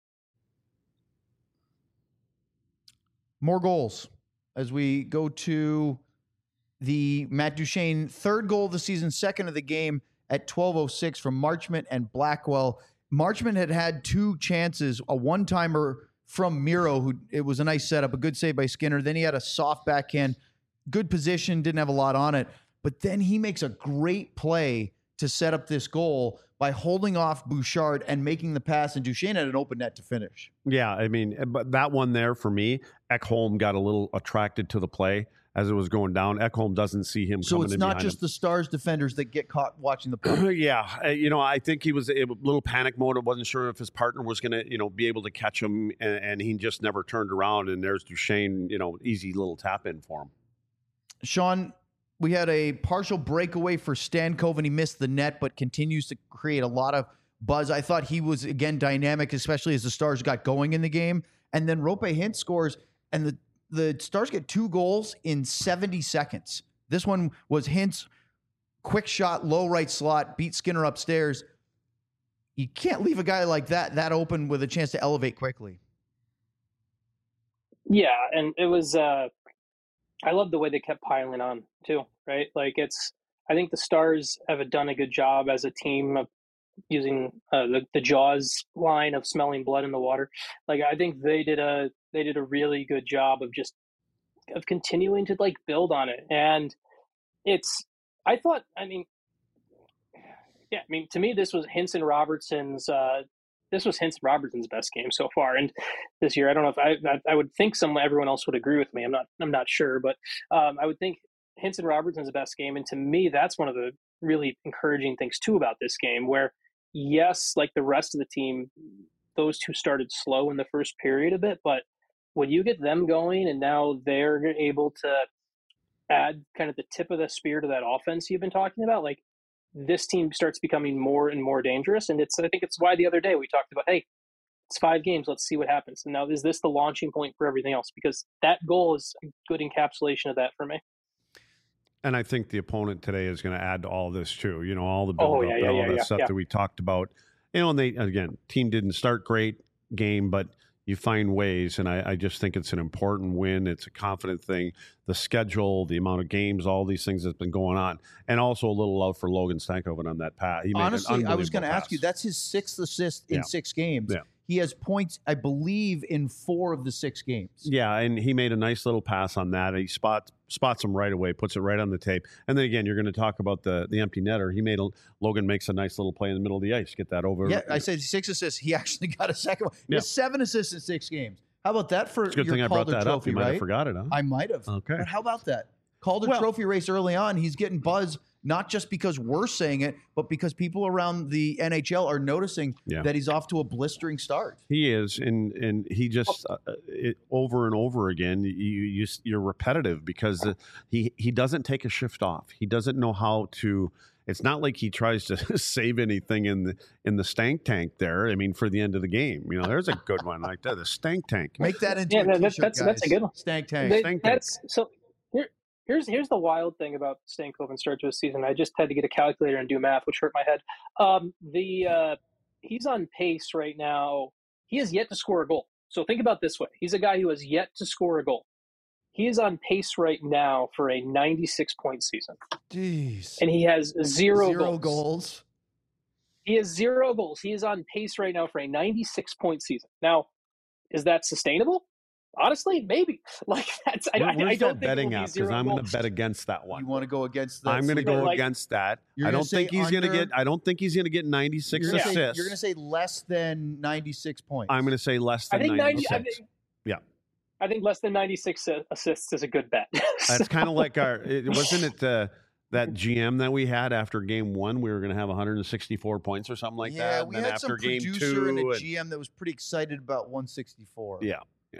More goals as we go to the Matt Duchene third goal of the season, second of the game at 12:06 from Marchment and Blackwell. Marchment had 2 chances, a one-timer from Miro, who it was a nice setup, a good save by Skinner. Then he had a soft backhand, good position, didn't have a lot on it. But then he makes a great play to set up this goal by holding off Bouchard and making the pass, and Duchene had an open net to finish. Yeah, I mean, but that one there for me, Ekholm got a little attracted to the play as it was going down. Ekholm doesn't see him coming in behind him. So it's not just the Stars defenders that get caught watching the play. Yeah, I think he was a little panic mode. I wasn't sure if his partner was going to, be able to catch him, and he just never turned around, and there's Duchene, easy little tap in for him. Sean, we had a partial breakaway for Stankov, and he missed the net, but continues to create a lot of buzz. I thought he was, again, dynamic, especially as the Stars got going in the game. And then Rope Hintz scores, and the Stars get 2 goals in 70 seconds. This one was Hintz, quick shot, low right slot, beat Skinner upstairs. you can't leave a guy like that open with a chance to elevate quickly. Yeah, and it was I love the way they kept piling on too, right? Like I think the Stars have done a good job as a team of using the Jaws line of smelling blood in the water. Like I think they did a really good job of continuing to like build on it. And to me this was Hinson Robertson's best game so far. And this year, I don't know if I would think everyone else would agree with me. I'm not sure, but I would think Hinson Robertson's best game. And to me, that's one of the really encouraging things too about this game, where yes, like the rest of the team, those two started slow in the first period a bit, but when you get them going and now they're able to add kind of the tip of the spear to that offense you've been talking about, like this team starts becoming more and more dangerous. And I think it's why the other day we talked about, hey, it's 5 games, let's see what happens. And now is this the launching point for everything else? Because that goal is a good encapsulation of that for me. And I think the opponent today is going to add to all this too. You know, all the build up and all that stuff that we talked about. You know, and again, team didn't start great game, but you find ways. And I just think it's an important win. It's a confident thing. The schedule, the amount of games, all these things that's been going on. And also a little love for Logan Stankoven on that pass. Honestly, I was going to ask you, that's his 6th assist in 6 games. Yeah. He has points, I believe, in 4 of the 6 games. Yeah, and he made a nice little pass on that. He spots him right away, puts it right on the tape. And then again, you're going to talk about the empty netter. Logan makes a nice little play in the middle of the ice. Get that over. Yeah, I said 6 assists. He actually got a second one. He has 7 assists in 6 games. How about that for it's a good your thing Calder I brought that Trophy, up. You might right? have forgot it, huh? I might have. Okay. But how about that? Calder Trophy race early on. He's getting buzz, not just because we're saying it, but because people around the NHL are noticing that he's off to a blistering start. He is, and he just over and over again. You're repetitive because he doesn't take a shift off. He doesn't know how to. It's not like he tries to save anything in the stank tank there. I mean, for the end of the game, you know, there's a good one like that. The stank tank. Make that into a t-shirt, that's a good one. Stank tank. So. Here's the wild thing about Stankoven start to a season. I just had to get a calculator and do math, which hurt my head. He's on pace right now. He has yet to score a goal. So think about it this way: he's a guy who has yet to score a goal. He is on pace right now for a 96-point season. Jeez. And he has zero goals. He has 0 goals. He is on pace right now for a 96-point season. Now, is that sustainable? Honestly, maybe. Like that's. I don't think betting app because I'm going to bet against that one. You want to go against that? I'm going to go against that. I don't think he's going to get. I don't think he's going to get 96 assists. You're going to say less than 96 points. I'm going to say less than 96. I think less than 96 assists is a good bet. That's kind of like wasn't it that GM that we had after game 1? We were going to have 164 points or something like that. Yeah, and we then had after some game producer 2 and a GM that was pretty excited about 164. Yeah.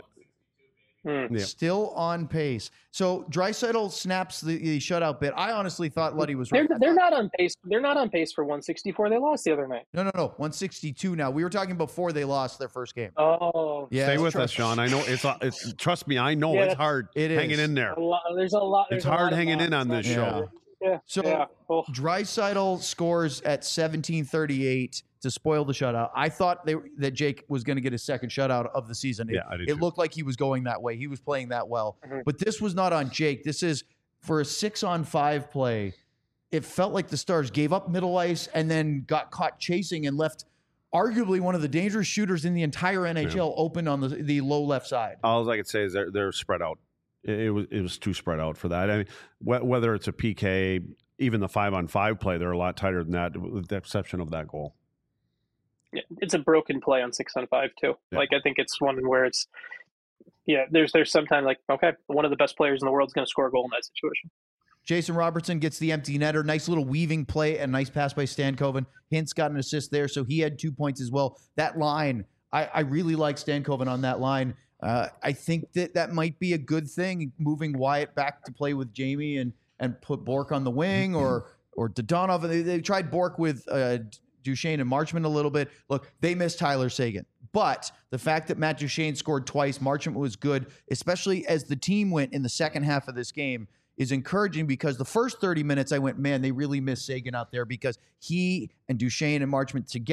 Still on pace. So Draisaitl snaps the shutout bit. I honestly thought Luddy was right. They're not on pace. They're not on pace for 164. They lost the other night. No. 162 now. We were talking before they lost their first game. Oh. Yeah. Stay with us, Sean. I know it's trust me, I know it's hard hanging in there. There's a lot. It's hard hanging in on this show. Yeah. So Draisaitl scores at 17:38 to spoil the shutout. I thought that Jake was going to get his second shutout of the season. I did it looked like he was going that way. He was playing that well. Mm-hmm. But this was not on Jake. This is for a 6-on-5 play. It felt like the Stars gave up middle ice and then got caught chasing and left arguably one of the dangerous shooters in the entire NHL open on the low left side. All I could say is they're spread out. It was too spread out for that. I mean, whether it's a PK, even the 5-on-5 play, they're a lot tighter than that, with the exception of that goal. Yeah, it's a broken play on 6-on-5 too. Yeah. Like I think it's one where it's there's sometimes like one of the best players in the world is going to score a goal in that situation. Jason Robertson gets the empty netter. Nice little weaving play and nice pass by Stankoven. Hintz got an assist there, so he had 2 points as well. That line, I really like Stankoven on that line. I think that might be a good thing, moving Wyatt back to play with Jamie and put Bork on the wing or Dodonov. They tried Bork with Duchesne and Marchment a little bit. Look, they missed Tyler Seguin. But the fact that Matt Duchesne scored twice, Marchment was good, especially as the team went in the second half of this game, is encouraging because the first 30 minutes I went, man, they really missed Seguin out there because he and Duchesne and Marchment together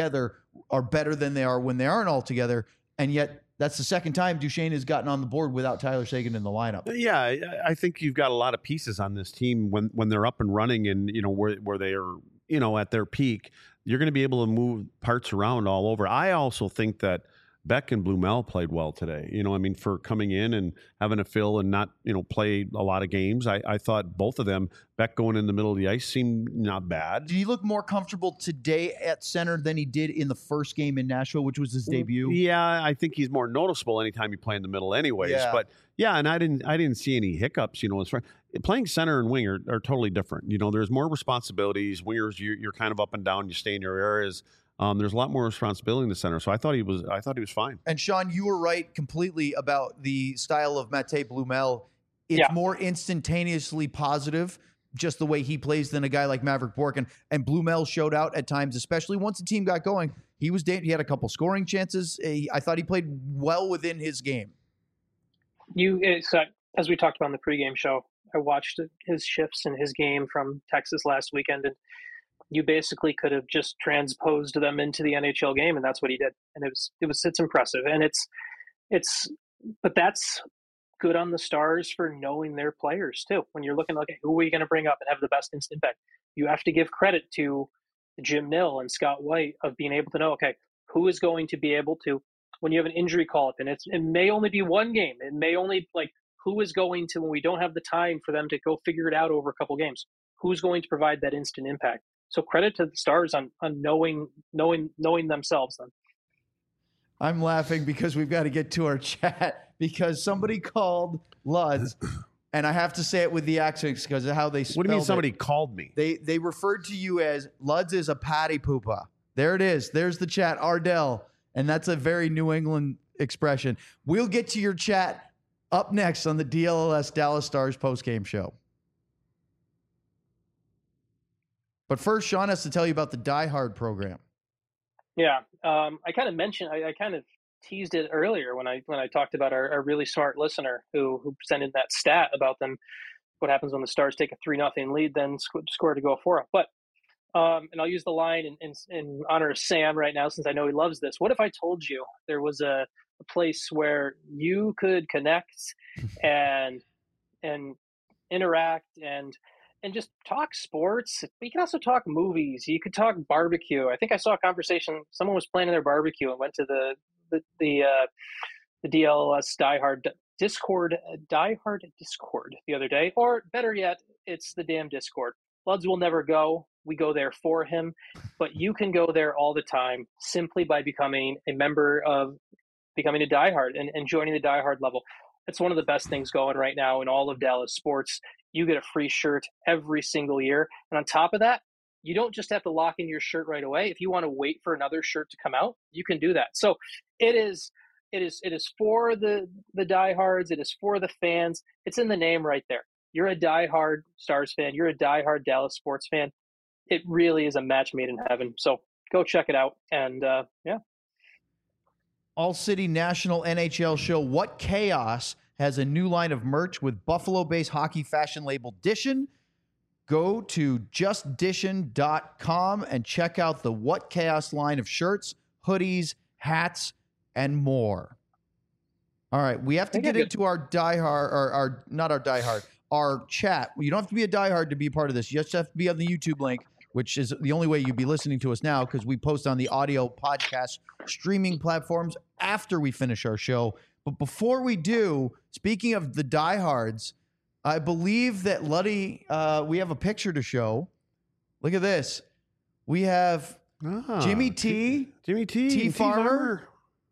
are better than they are when they aren't all together. And yet that's the second time Duchesne has gotten on the board without Tyler Seguin in the lineup. Yeah, I think you've got a lot of pieces on this team when they're up and running and, where they are, at their peak. You're going to be able to move parts around all over. I also think that Beck and Blumel played well today. For coming in and having to fill and not, play a lot of games. I thought both of them, Beck going in the middle of the ice, seemed not bad. Did he look more comfortable today at center than he did in the first game in Nashville, which was his debut? Yeah, I think he's more noticeable anytime you play in the middle anyways. Yeah. But yeah, and I didn't see any hiccups, as far playing center and wing are totally different. There's more responsibilities. Wingers, you're kind of up and down, you stay in your areas. There's a lot more responsibility in the center, so I thought he was fine. And Sean, you were right completely about the style of Mate Blumel. It's more instantaneously positive, just the way he plays, than a guy like Maverick Bourque. And Blumel showed out at times, especially once the team got going. He had a couple scoring chances. I thought he played well within his game. As we talked about in the pregame show, I watched his shifts in his game from Texas last weekend, and you basically could have just transposed them into the NHL game, and that's what he did. And it's impressive, and but that's good on the Stars for knowing their players too. When you're looking, okay, who are you going to bring up and have the best instant impact? You have to give credit to Jim Nill and Scott White of being able to know, okay, who is going to be able to, when you have an injury call up, and it may only be one game, it may only who is going to, when we don't have the time for them to go figure it out over a couple games, who's going to provide that instant impact? So credit to the Stars on knowing themselves then. I'm laughing because we've got to get to our chat because somebody called Luds, and I have to say it with the accents because of how they spelled it. What do you mean somebody called me? They referred to you as Luds is a patty poopa. There it is. There's the chat, Ardell. And that's a very New England expression. We'll get to your chat up next on the DLS Dallas Stars postgame show. But first, Sean has to tell you about the Die Hard program. Yeah, I kind of mentioned, I kind of teased it earlier when I talked about our really smart listener who sent in that stat about them. What happens when the Stars take a 3-0 lead, then score to go 4-0. But and I'll use the line in honor of Sam right now, since I know he loves this. What if I told you there was a place where you could connect and interact and just talk sports? You can also talk movies. You could talk barbecue. I think I saw a conversation. Someone was planning their barbecue and went to the DLS Die Hard Discord the other day. Or better yet, it's the damn Discord. Luds will never go. We go there for him. But you can go there all the time simply by becoming a Die Hard and joining the Die Hard level. It's one of the best things going right now in all of Dallas sports. You get a free shirt every single year. And on top of that, you don't just have to lock in your shirt right away. If you want to wait for another shirt to come out, you can do that. So it is for the diehards. It is for the fans. It's in the name right there. You're a diehard Stars fan. You're a diehard Dallas sports fan. It really is a match made in heaven. So go check it out. And yeah. All City National NHL show What Chaos has a new line of merch with Buffalo-based hockey fashion label Dishin. Go to justdishin.com and check out the What Chaos line of shirts, hoodies, hats, and more. All right, we have to get into our diehard, our chat. You don't have to be a diehard to be a part of this. You just have to be on the YouTube link, which is the only way you'd be listening to us now, because we post on the audio podcast streaming platforms after we finish our show. But before we do, speaking of the diehards, I believe that Luddy, we have a picture to show. Look at this. We have Jimmy T Farmer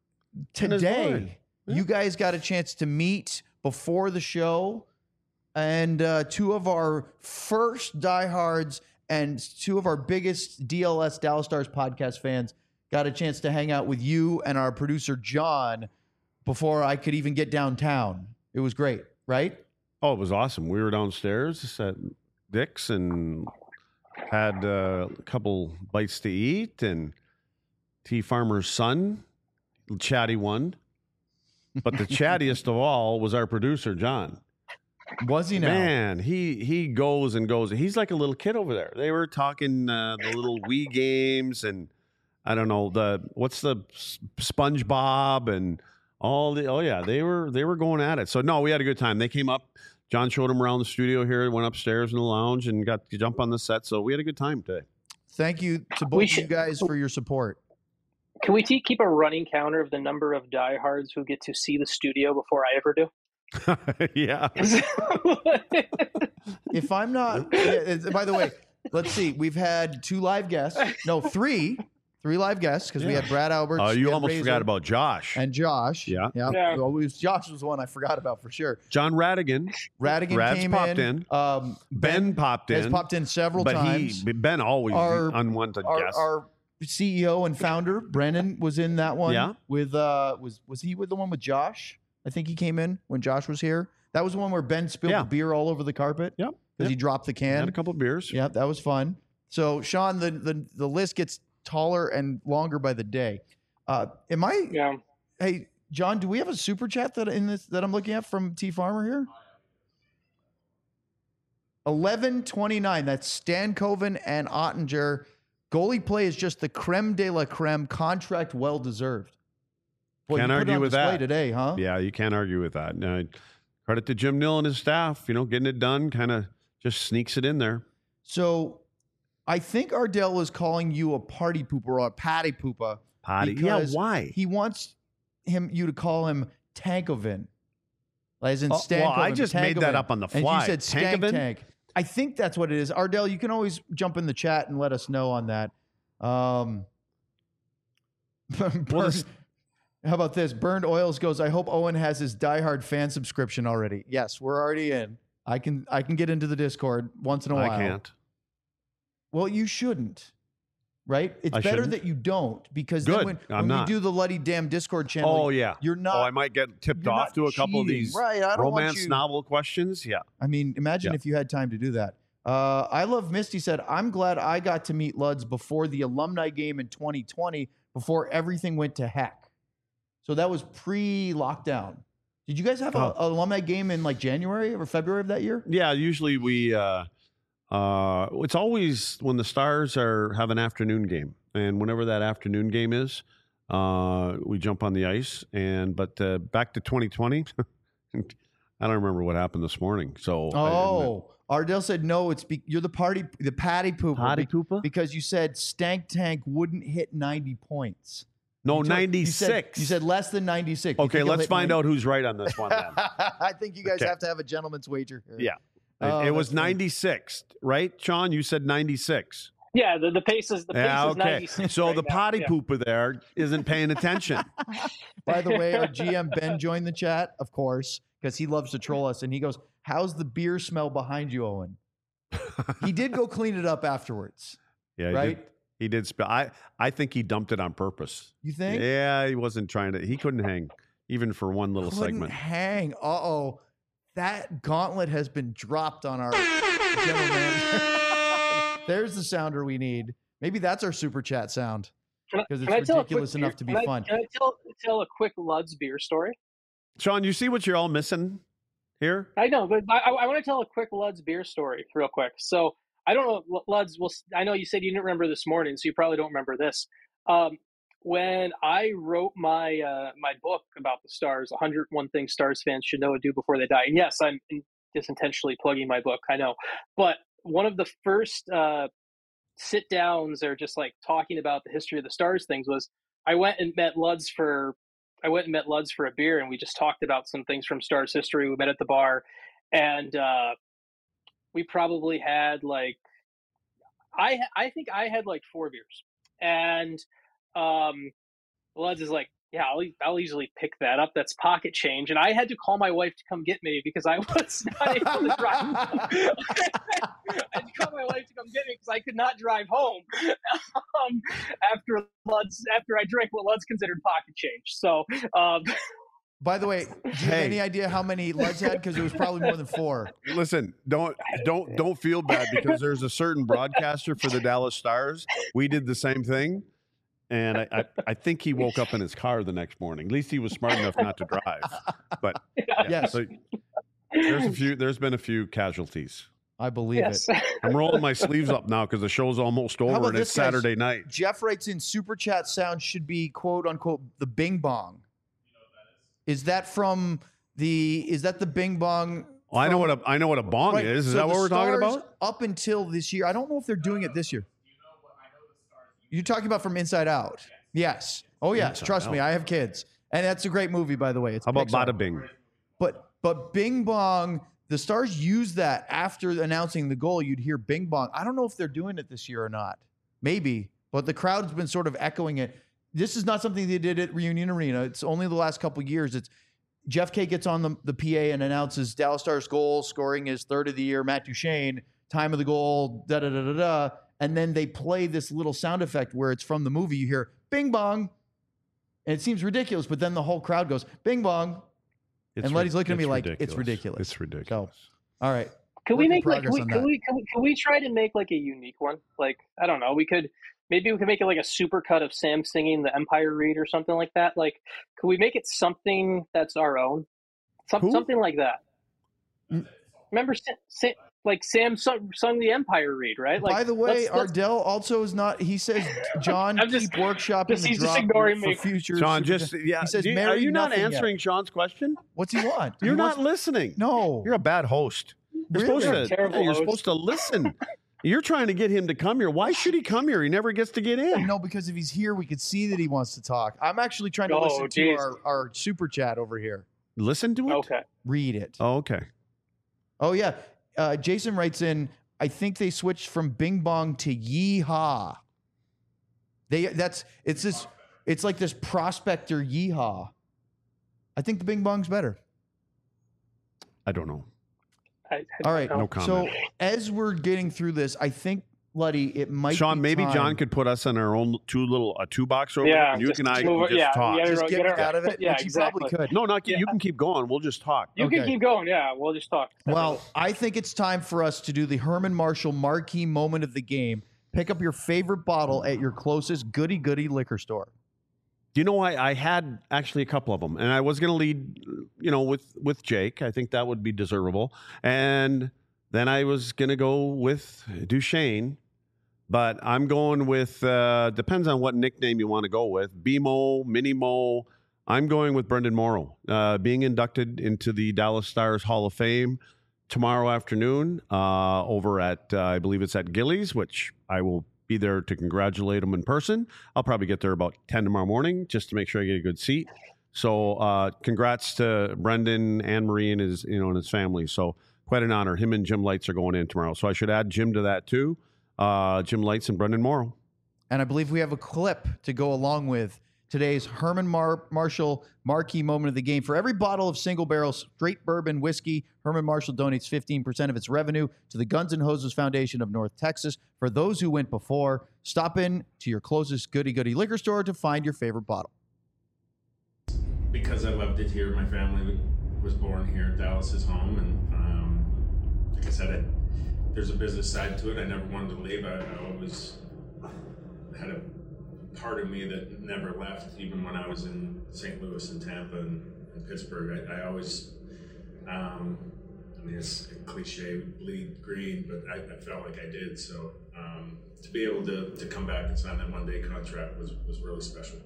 today. Yeah. You guys got a chance to meet before the show, and two of our first diehards and two of our biggest DLS Dallas Stars podcast fans got a chance to hang out with you and our producer John before I could even get downtown. It was great, right? Oh, it was awesome. We were downstairs at Dick's and had a couple bites to eat, and T Farmer's son, chatty one. But the chattiest of all was our producer, John. Was he now? Man, he goes and goes. He's like a little kid over there. They were talking the little Wii games, and I don't know, what's the SpongeBob and all the, oh yeah, they were going at it. So no, we had a good time. They came up, John showed them around the studio here, went upstairs in the lounge and got to jump on the set. So we had a good time today. Thank you to both of you guys for your support. Can we keep a running counter of the number of diehards who get to see the studio before I ever do? Yeah. If I'm not, by the way, let's see. We've had 2 live guests. No, 3 live guests because we had Brad Alberts. Oh, you almost Razor, forgot about Josh. and Josh. Yeah. Well, Josh was the one I forgot about for sure. John Radigan. Rad's came popped in. Ben popped in. Has popped in several times. Ben always unwanted guest. Our CEO and founder Brennan was in that one. Yeah. With was he with the one with Josh? I think he came in when Josh was here. That was the one where Ben spilled the beer all over the carpet. Yep. Because he dropped the can. Had a couple of beers. Yeah, that was fun. So Sean, the list gets taller and longer by the day. Yeah. Hey, John, do we have a super chat that I'm looking at from T Farmer here? 1129. That's Stan Coven and Ottinger. Goalie play is just the creme de la creme. Contract well deserved. Boy, Can't you put it argue on with display that today, huh? Yeah, you can't argue with that. Now, credit to Jim Nill and his staff. Getting it done, kind of just sneaks it in there. So, I think Ardell is calling you a party pooper or a patty pooper. Potty. Yeah, why? He wants you to call him Tankoven. As in Stankoven. Well, I just made that up on the fly. And you said Stank Tank. I think that's what it is. Ardell, you can always jump in the chat and let us know on that. How about this? Burned Oils goes, I hope Owen has his diehard fan subscription already. Yes, we're already in. I can get into the Discord once in a while. I can't. Well, you shouldn't. Right? It's better that you don't because Good. then when we do the Luddy Damn Discord channel, you're not. Oh, I might get tipped off to a couple of these romance novel questions. Yeah. I mean, imagine if you had time to do that. I Love Misty said, I'm glad I got to meet Luds before the alumni game in 2020, before everything went to heck. So that was pre-lockdown. Did you guys have an alumni game in like January or February of that year? Yeah, usually we it's always when the Stars have an afternoon game. And whenever that afternoon game is, we jump on the ice. But back to 2020, I don't remember what happened this morning. So Ardell said no. You're the patty pooper. Patty pooper? Because you said Stank Tank wouldn't hit 90 points. No, 96. You said less than 96. Okay, let's find out who's right on this one then. I think you guys have to have a gentleman's wager here. Yeah. It was 96, right, Sean? You said 96. Yeah, the pace is 96. So right the potty pooper there isn't paying attention. By the way, our GM Ben joined the chat, of course, because he loves to troll us, and he goes, "How's the beer smell behind you, Owen?" He did go clean it up afterwards. Yeah, right. He did spill. I think he dumped it on purpose. You think? Yeah, he wasn't trying to. He couldn't hang even for one little segment. Hang. Uh-oh. That gauntlet has been dropped on our general manager. There's the sounder we need. Maybe that's our super chat sound because it's ridiculous enough to be fun. Can I tell a quick Luds beer story? Sean, you see what you're all missing here? I know, but I want to tell a quick Luds beer story real quick. So I don't know, Luds. Well, I know you said you didn't remember this morning, so you probably don't remember this. When I wrote my my book about the Stars, 101 Things Stars fans should know and do before they die. And yes, I'm just intentionally plugging my book, I know. But one of the first sit downs or just like talking about the history of the Stars things was I went and met Luds for a beer, and we just talked about some things from Stars history. We met at the bar, and we probably had like I think I had like 4 beers, and Luds is like, yeah, I'll easily pick that up. That's pocket change. And I had to call my wife to come get me because I was not able to drive home. I had to call my wife to come get me because I could not drive home after I drank what Luds considered pocket change. So, by the way, do you have any idea how many Luds had? Because it was probably more than 4. Listen, don't feel bad because there's a certain broadcaster for the Dallas Stars. We did the same thing. And I think he woke up in his car the next morning. At least he was smart enough not to drive. But yes, so there's been a few casualties. I believe it. I'm rolling my sleeves up now because the show's almost over about and it's this, guys? Saturday night. Jeff writes in, super chat sound should be quote unquote the Bing Bong. Is that from is that the Bing Bong? Well, I know what a bong Right, is. Is so that what the we're talking Stars, about? Up until this year, I don't know if they're doing it this year. You're talking about from Inside Out? Yes. Oh yes. Inside Trust me, Out. I have kids, and that's a great movie, by the way. It's How about Pixar. Bada Bing? But Bing Bong, the Stars used that after announcing the goal. You'd hear Bing Bong. I don't know if they're doing it this year or not. Maybe, but the crowd's been sort of echoing it. This is not something they did at Reunion Arena. It's only the last couple of years. It's Jeff K gets on the PA and announces Dallas Stars goal, scoring his third of the year. Matt Duchene, time of the goal, da-da-da-da-da. And then they play this little sound effect where it's from the movie. You hear Bing Bong. And it seems ridiculous, but then the whole crowd goes, Bing Bong. And Letty's looking at me like, it's ridiculous. It's ridiculous. So, all right. Can we make like Progress on can we try to make like a unique one? Like, I don't know, maybe we could make it like a super cut of Sam singing the Empire Read or something like that. Like, could we make it something that's our own? Something like that. Remember like Sam sung the Empire Read, right? Like, by the way, let's Ardell also is not. He says, John, keep workshopping the he's drop just ignoring for me. future. Sean, Super- just He says, are married you not nothing answering yet. Sean's question? What's he want? You're He not wants- listening. No. You're a bad host. You're Really? supposed to. Terrible You're host. supposed to listen. You're trying to get him to come here. Why should he come here? He never gets to get in. No, because if he's here, we could see that he wants to talk. I'm actually trying to Oh, listen to geez. our super chat over here. Listen to it. Okay. Read it. Oh, okay. Oh yeah. Jason writes in, I think they switched from Bing Bong to Yeehaw. It's like this prospector yeehaw. I think the Bing Bong's better. I don't know. All right. No comment. So as we're getting through this, I think, Luddy, it might Sean, be maybe time. John could put us in our own two box over Yeah, there, and you just and I move can it- just talk. yeah, Just Get get her- out of it, yeah, which you exactly. probably could. No, you can keep going. We'll just talk. You Okay. can keep going. Yeah, we'll just talk. Well, I think it's time for us to do the Herman Marshall marquee moment of the game. Pick up your favorite bottle at your closest goody liquor store. You know, I had actually a couple of them, and I was going to lead, with Jake. I think that would be deservable. And then I was going to go with Duchene, but I'm going with, depends on what nickname you want to go with, BMO, Mini-Mo. I'm going with Brendan Morrow, being inducted into the Dallas Stars Hall of Fame tomorrow afternoon over at, I believe it's at Gillies, which I will be there to congratulate him in person. I'll probably get there about 10 tomorrow morning just to make sure I get a good seat. So congrats to Brendan, Anne-Marie, and his family. So quite an honor. Him and Jim Lights are going in tomorrow. So I should add Jim to that too. Jim Lights and Brendan Morrow. And I believe we have a clip to go along with today's Herman Marshall marquee moment of the game. For every bottle of single barrel straight bourbon whiskey, Herman Marshall donates 15% of its revenue to the Guns N' Hoses Foundation of North Texas. For those who went before, stop in to your closest goody liquor store to find your favorite bottle. Because I loved it here, my family was born here. Dallas is home, and like I said, there's a business side to it. I never wanted to leave. I always had a part of me that never left, even when I was in St. Louis and Tampa and Pittsburgh. I always, I mean, it's a cliche, bleed green, but I felt like I did. So to be able to come back and sign that one-day contract was really special.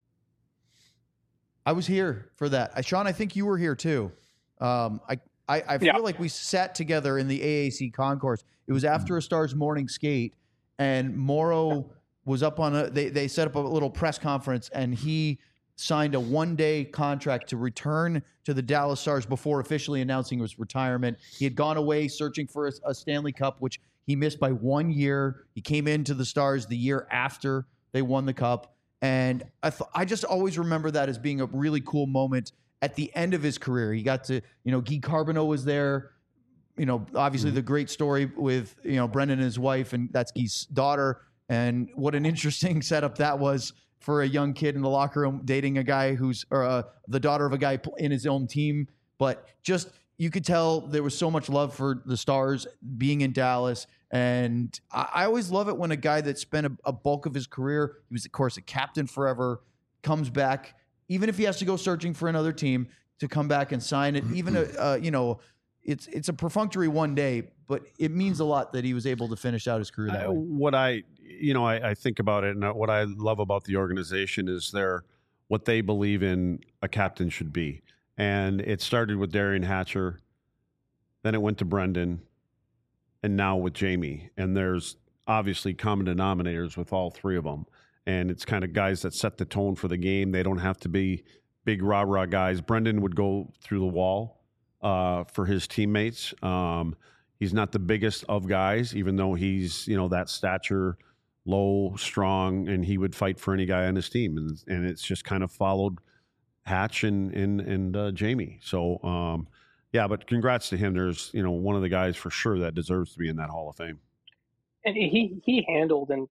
I was here for that. Sean, I think you were here too. I feel like we sat together in the AAC concourse. It was after a Stars morning skate, and Morrow was up on they set up a little press conference, and he signed a one-day contract to return to the Dallas Stars before officially announcing his retirement. He had gone away searching for a Stanley Cup, which he missed by 1 year. He came into the Stars the year after they won the Cup. And I just always remember that as being a really cool moment at the end of his career. He got to, Guy Carbonneau was there. Obviously the great story with, Brendan and his wife, and that's Guy's daughter. And what an interesting setup that was for a young kid in the locker room dating a guy who's the daughter of a guy in his own team. But just, you could tell there was so much love for the Stars being in Dallas. And I always love it when a guy that spent a bulk of his career, he was, of course, a captain forever, comes back, even if he has to go searching for another team, to come back and sign it. Even, it's a perfunctory one day, but it means a lot that he was able to finish out his career that way. What I think about it, and what I love about the organization is what they believe in a captain should be. And it started with Derian Hatcher, then it went to Brendan, and now with Jamie. And there's obviously common denominators with all three of them. And it's kind of guys that set the tone for the game. They don't have to be big rah-rah guys. Brendan would go through the wall for his teammates. He's not the biggest of guys, even though he's, that stature, low, strong, and he would fight for any guy on his team. And it's just kind of followed Hatch and Jamie. So, but congrats to him. There's, one of the guys for sure that deserves to be in that Hall of Fame. And he handled, and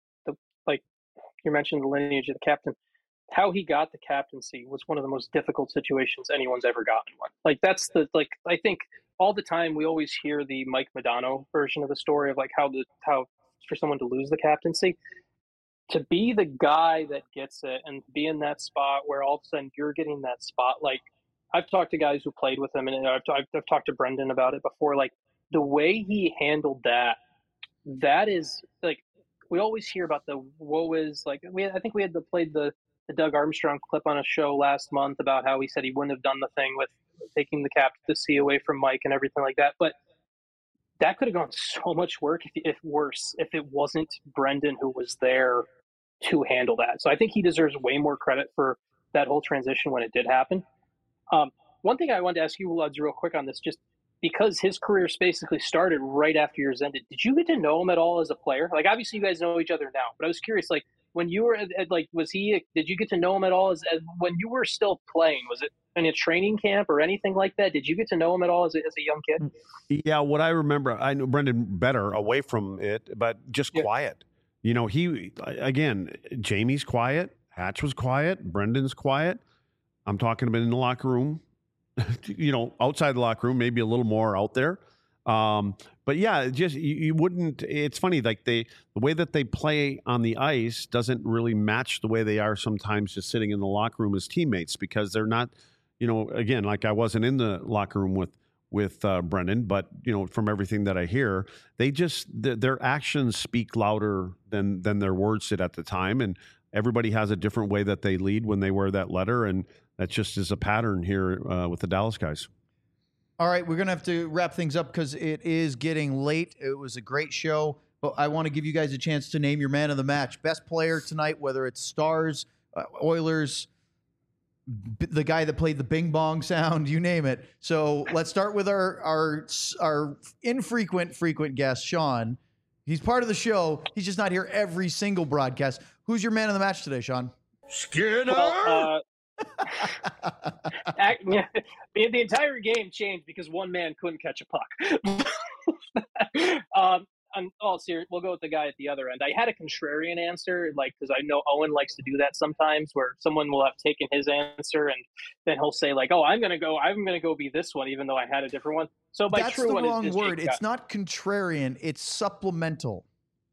you mentioned the lineage of the captain, how he got the captaincy was one of the most difficult situations anyone's ever gotten one. That's I think all the time we always hear the Mike Modano version of the story of how for someone to lose the captaincy, to be the guy that gets it and be in that spot where all of a sudden you're getting that spot. I've talked to guys who played with him, and I've talked to Brendan about it before. The way he handled that is we always hear about the woe is I think we had played the Doug Armstrong clip on a show last month about how he said he wouldn't have done the thing with taking the captaincy away from Mike and everything like that. But that could have gone so much worse if it wasn't Brendan who was there to handle that. So I think he deserves way more credit for that whole transition when it did happen. One thing I wanted to ask you, Luds, real quick on this, just because his career basically started right after yours ended. Did you get to know him at all as a player? Obviously you guys know each other now, but I was curious, when you were did you get to know him at all as when you were still playing? Was it in a training camp or anything like that? Did you get to know him at all as a young kid? Yeah, what I remember, I know Brendan better away from it, but just quiet. Jamie's quiet, Hatch was quiet, Brendan's quiet. I'm talking about in the locker room, outside the locker room, maybe a little more out there. But yeah, just you wouldn't. It's funny, the way that they play on the ice doesn't really match the way they are sometimes just sitting in the locker room as teammates, because they're not. Again, I wasn't in the locker room with Brendan, but from everything that I hear, their actions speak louder than their words did at the time, and everybody has a different way that they lead when they wear that letter, and that just is a pattern here with the Dallas guys. All right, we're going to have to wrap things up because it is getting late. It was a great show, but I want to give you guys a chance to name your man of the match. Best player tonight, whether it's Stars, Oilers, the guy that played the bing bong sound, you name it. So let's start with our frequent guest, Sean. He's part of the show. He's just not here every single broadcast. Who's your man of the match today, Sean? Skinner! Well, the entire game changed because one man couldn't catch a puck. I'm all serious. We'll go with the guy at the other end. I had a contrarian answer, because I know Owen likes to do that sometimes, where someone will have taken his answer and then he'll say "Oh, I'm gonna go be this one," even though I had a different one. So my that's true the one wrong is word. Jake It's not contrarian. It's supplemental.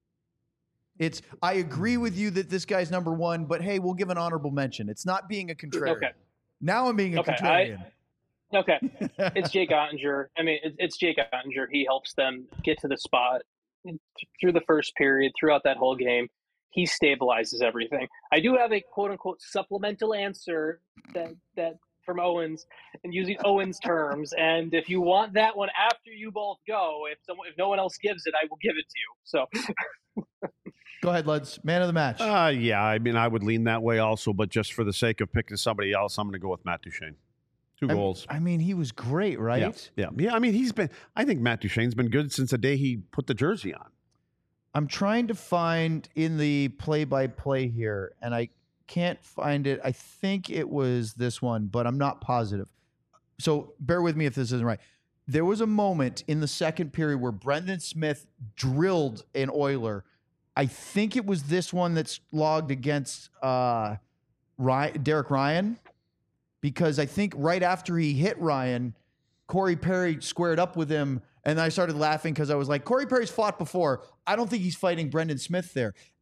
I agree with you that this guy's number one, but hey, we'll give an honorable mention. It's not being a contrarian. Okay. Now I'm being a contrarian. Okay. It's Jake Ottinger. I mean, it's Jake Ottinger. He helps them get to the spot through the first period, throughout that whole game. He stabilizes everything. I do have a quote-unquote supplemental answer that from Owens, and using Owens terms. And if you want that one after you both go, if no one else gives it, I will give it to you. So go ahead, Luds. Man of the match. Yeah, I mean, I would lean that way also, but just for the sake of picking somebody else, I'm going to go with Matt Duchene. 2 goals. I mean, he was great, right? Yeah. I mean, I think Matt Duchene's been good since the day he put the jersey on. I'm trying to find in the play-by-play here, and I can't find it. I think it was this one, but I'm not positive. So bear with me if this isn't right. There was a moment in the second period where Brendan Smith drilled an Oiler. I think it was this one that's logged against Derek Ryan, because I think right after he hit Ryan, Corey Perry squared up with him, and I started laughing because I was like, Corey Perry's fought before. I don't think he's fighting Brendan Smith there. And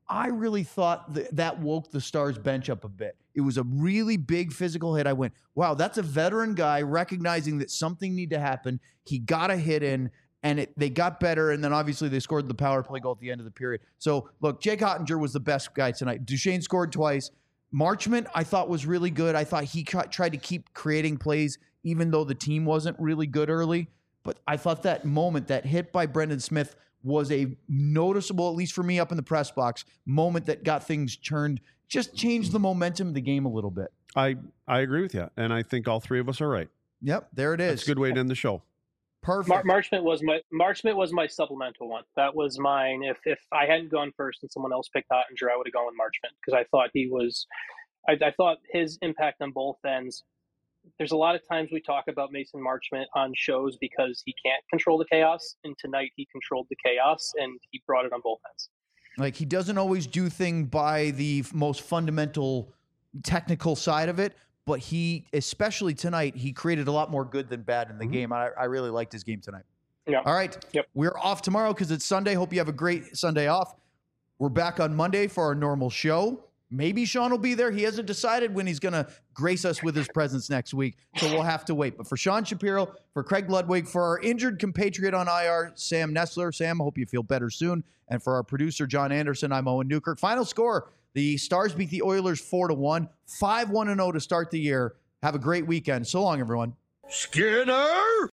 I really thought that woke the Stars bench up a bit. It was a really big physical hit. I went, wow, that's a veteran guy recognizing that something need to happen. He got a hit in, and they got better, and then obviously they scored the power play goal at the end of the period. So, look, Jake Ottinger was the best guy tonight. Duchesne scored twice. Marchment, I thought, was really good. I thought he tried to keep creating plays, even though the team wasn't really good early. But I thought that moment, that hit by Brendan Smith, was a noticeable, at least for me up in the press box, moment that got things turned, just changed the momentum of the game a little bit. I agree with you, and I think all three of us are right. Yep, there it is. That's a good way to end the show. Perfect. Marchment was my supplemental one. That was mine. If I hadn't gone first and someone else picked Ottinger, I would have gone with Marchment because I thought I thought his impact on both ends. There's a lot of times we talk about Mason Marchment on shows because he can't control the chaos, and tonight he controlled the chaos and he brought it on both ends. Like, he doesn't always do things by the most fundamental technical side of it, but he, especially tonight, he created a lot more good than bad in the game. I really liked his game tonight. Yeah. All right. Yep. We're off tomorrow because it's Sunday. Hope you have a great Sunday off. We're back on Monday for our normal show. Maybe Sean will be there. He hasn't decided when he's going to grace us with his presence next week, so we'll have to wait. But for Sean Shapiro, for Craig Ludwig, for our injured compatriot on IR, Sam Nestler. Sam, I hope you feel better soon. And for our producer, John Anderson, I'm Owen Newkirk. Final score, the Stars beat the Oilers 4-1, 5-1-0 to start the year. Have a great weekend. So long, everyone. Skinner!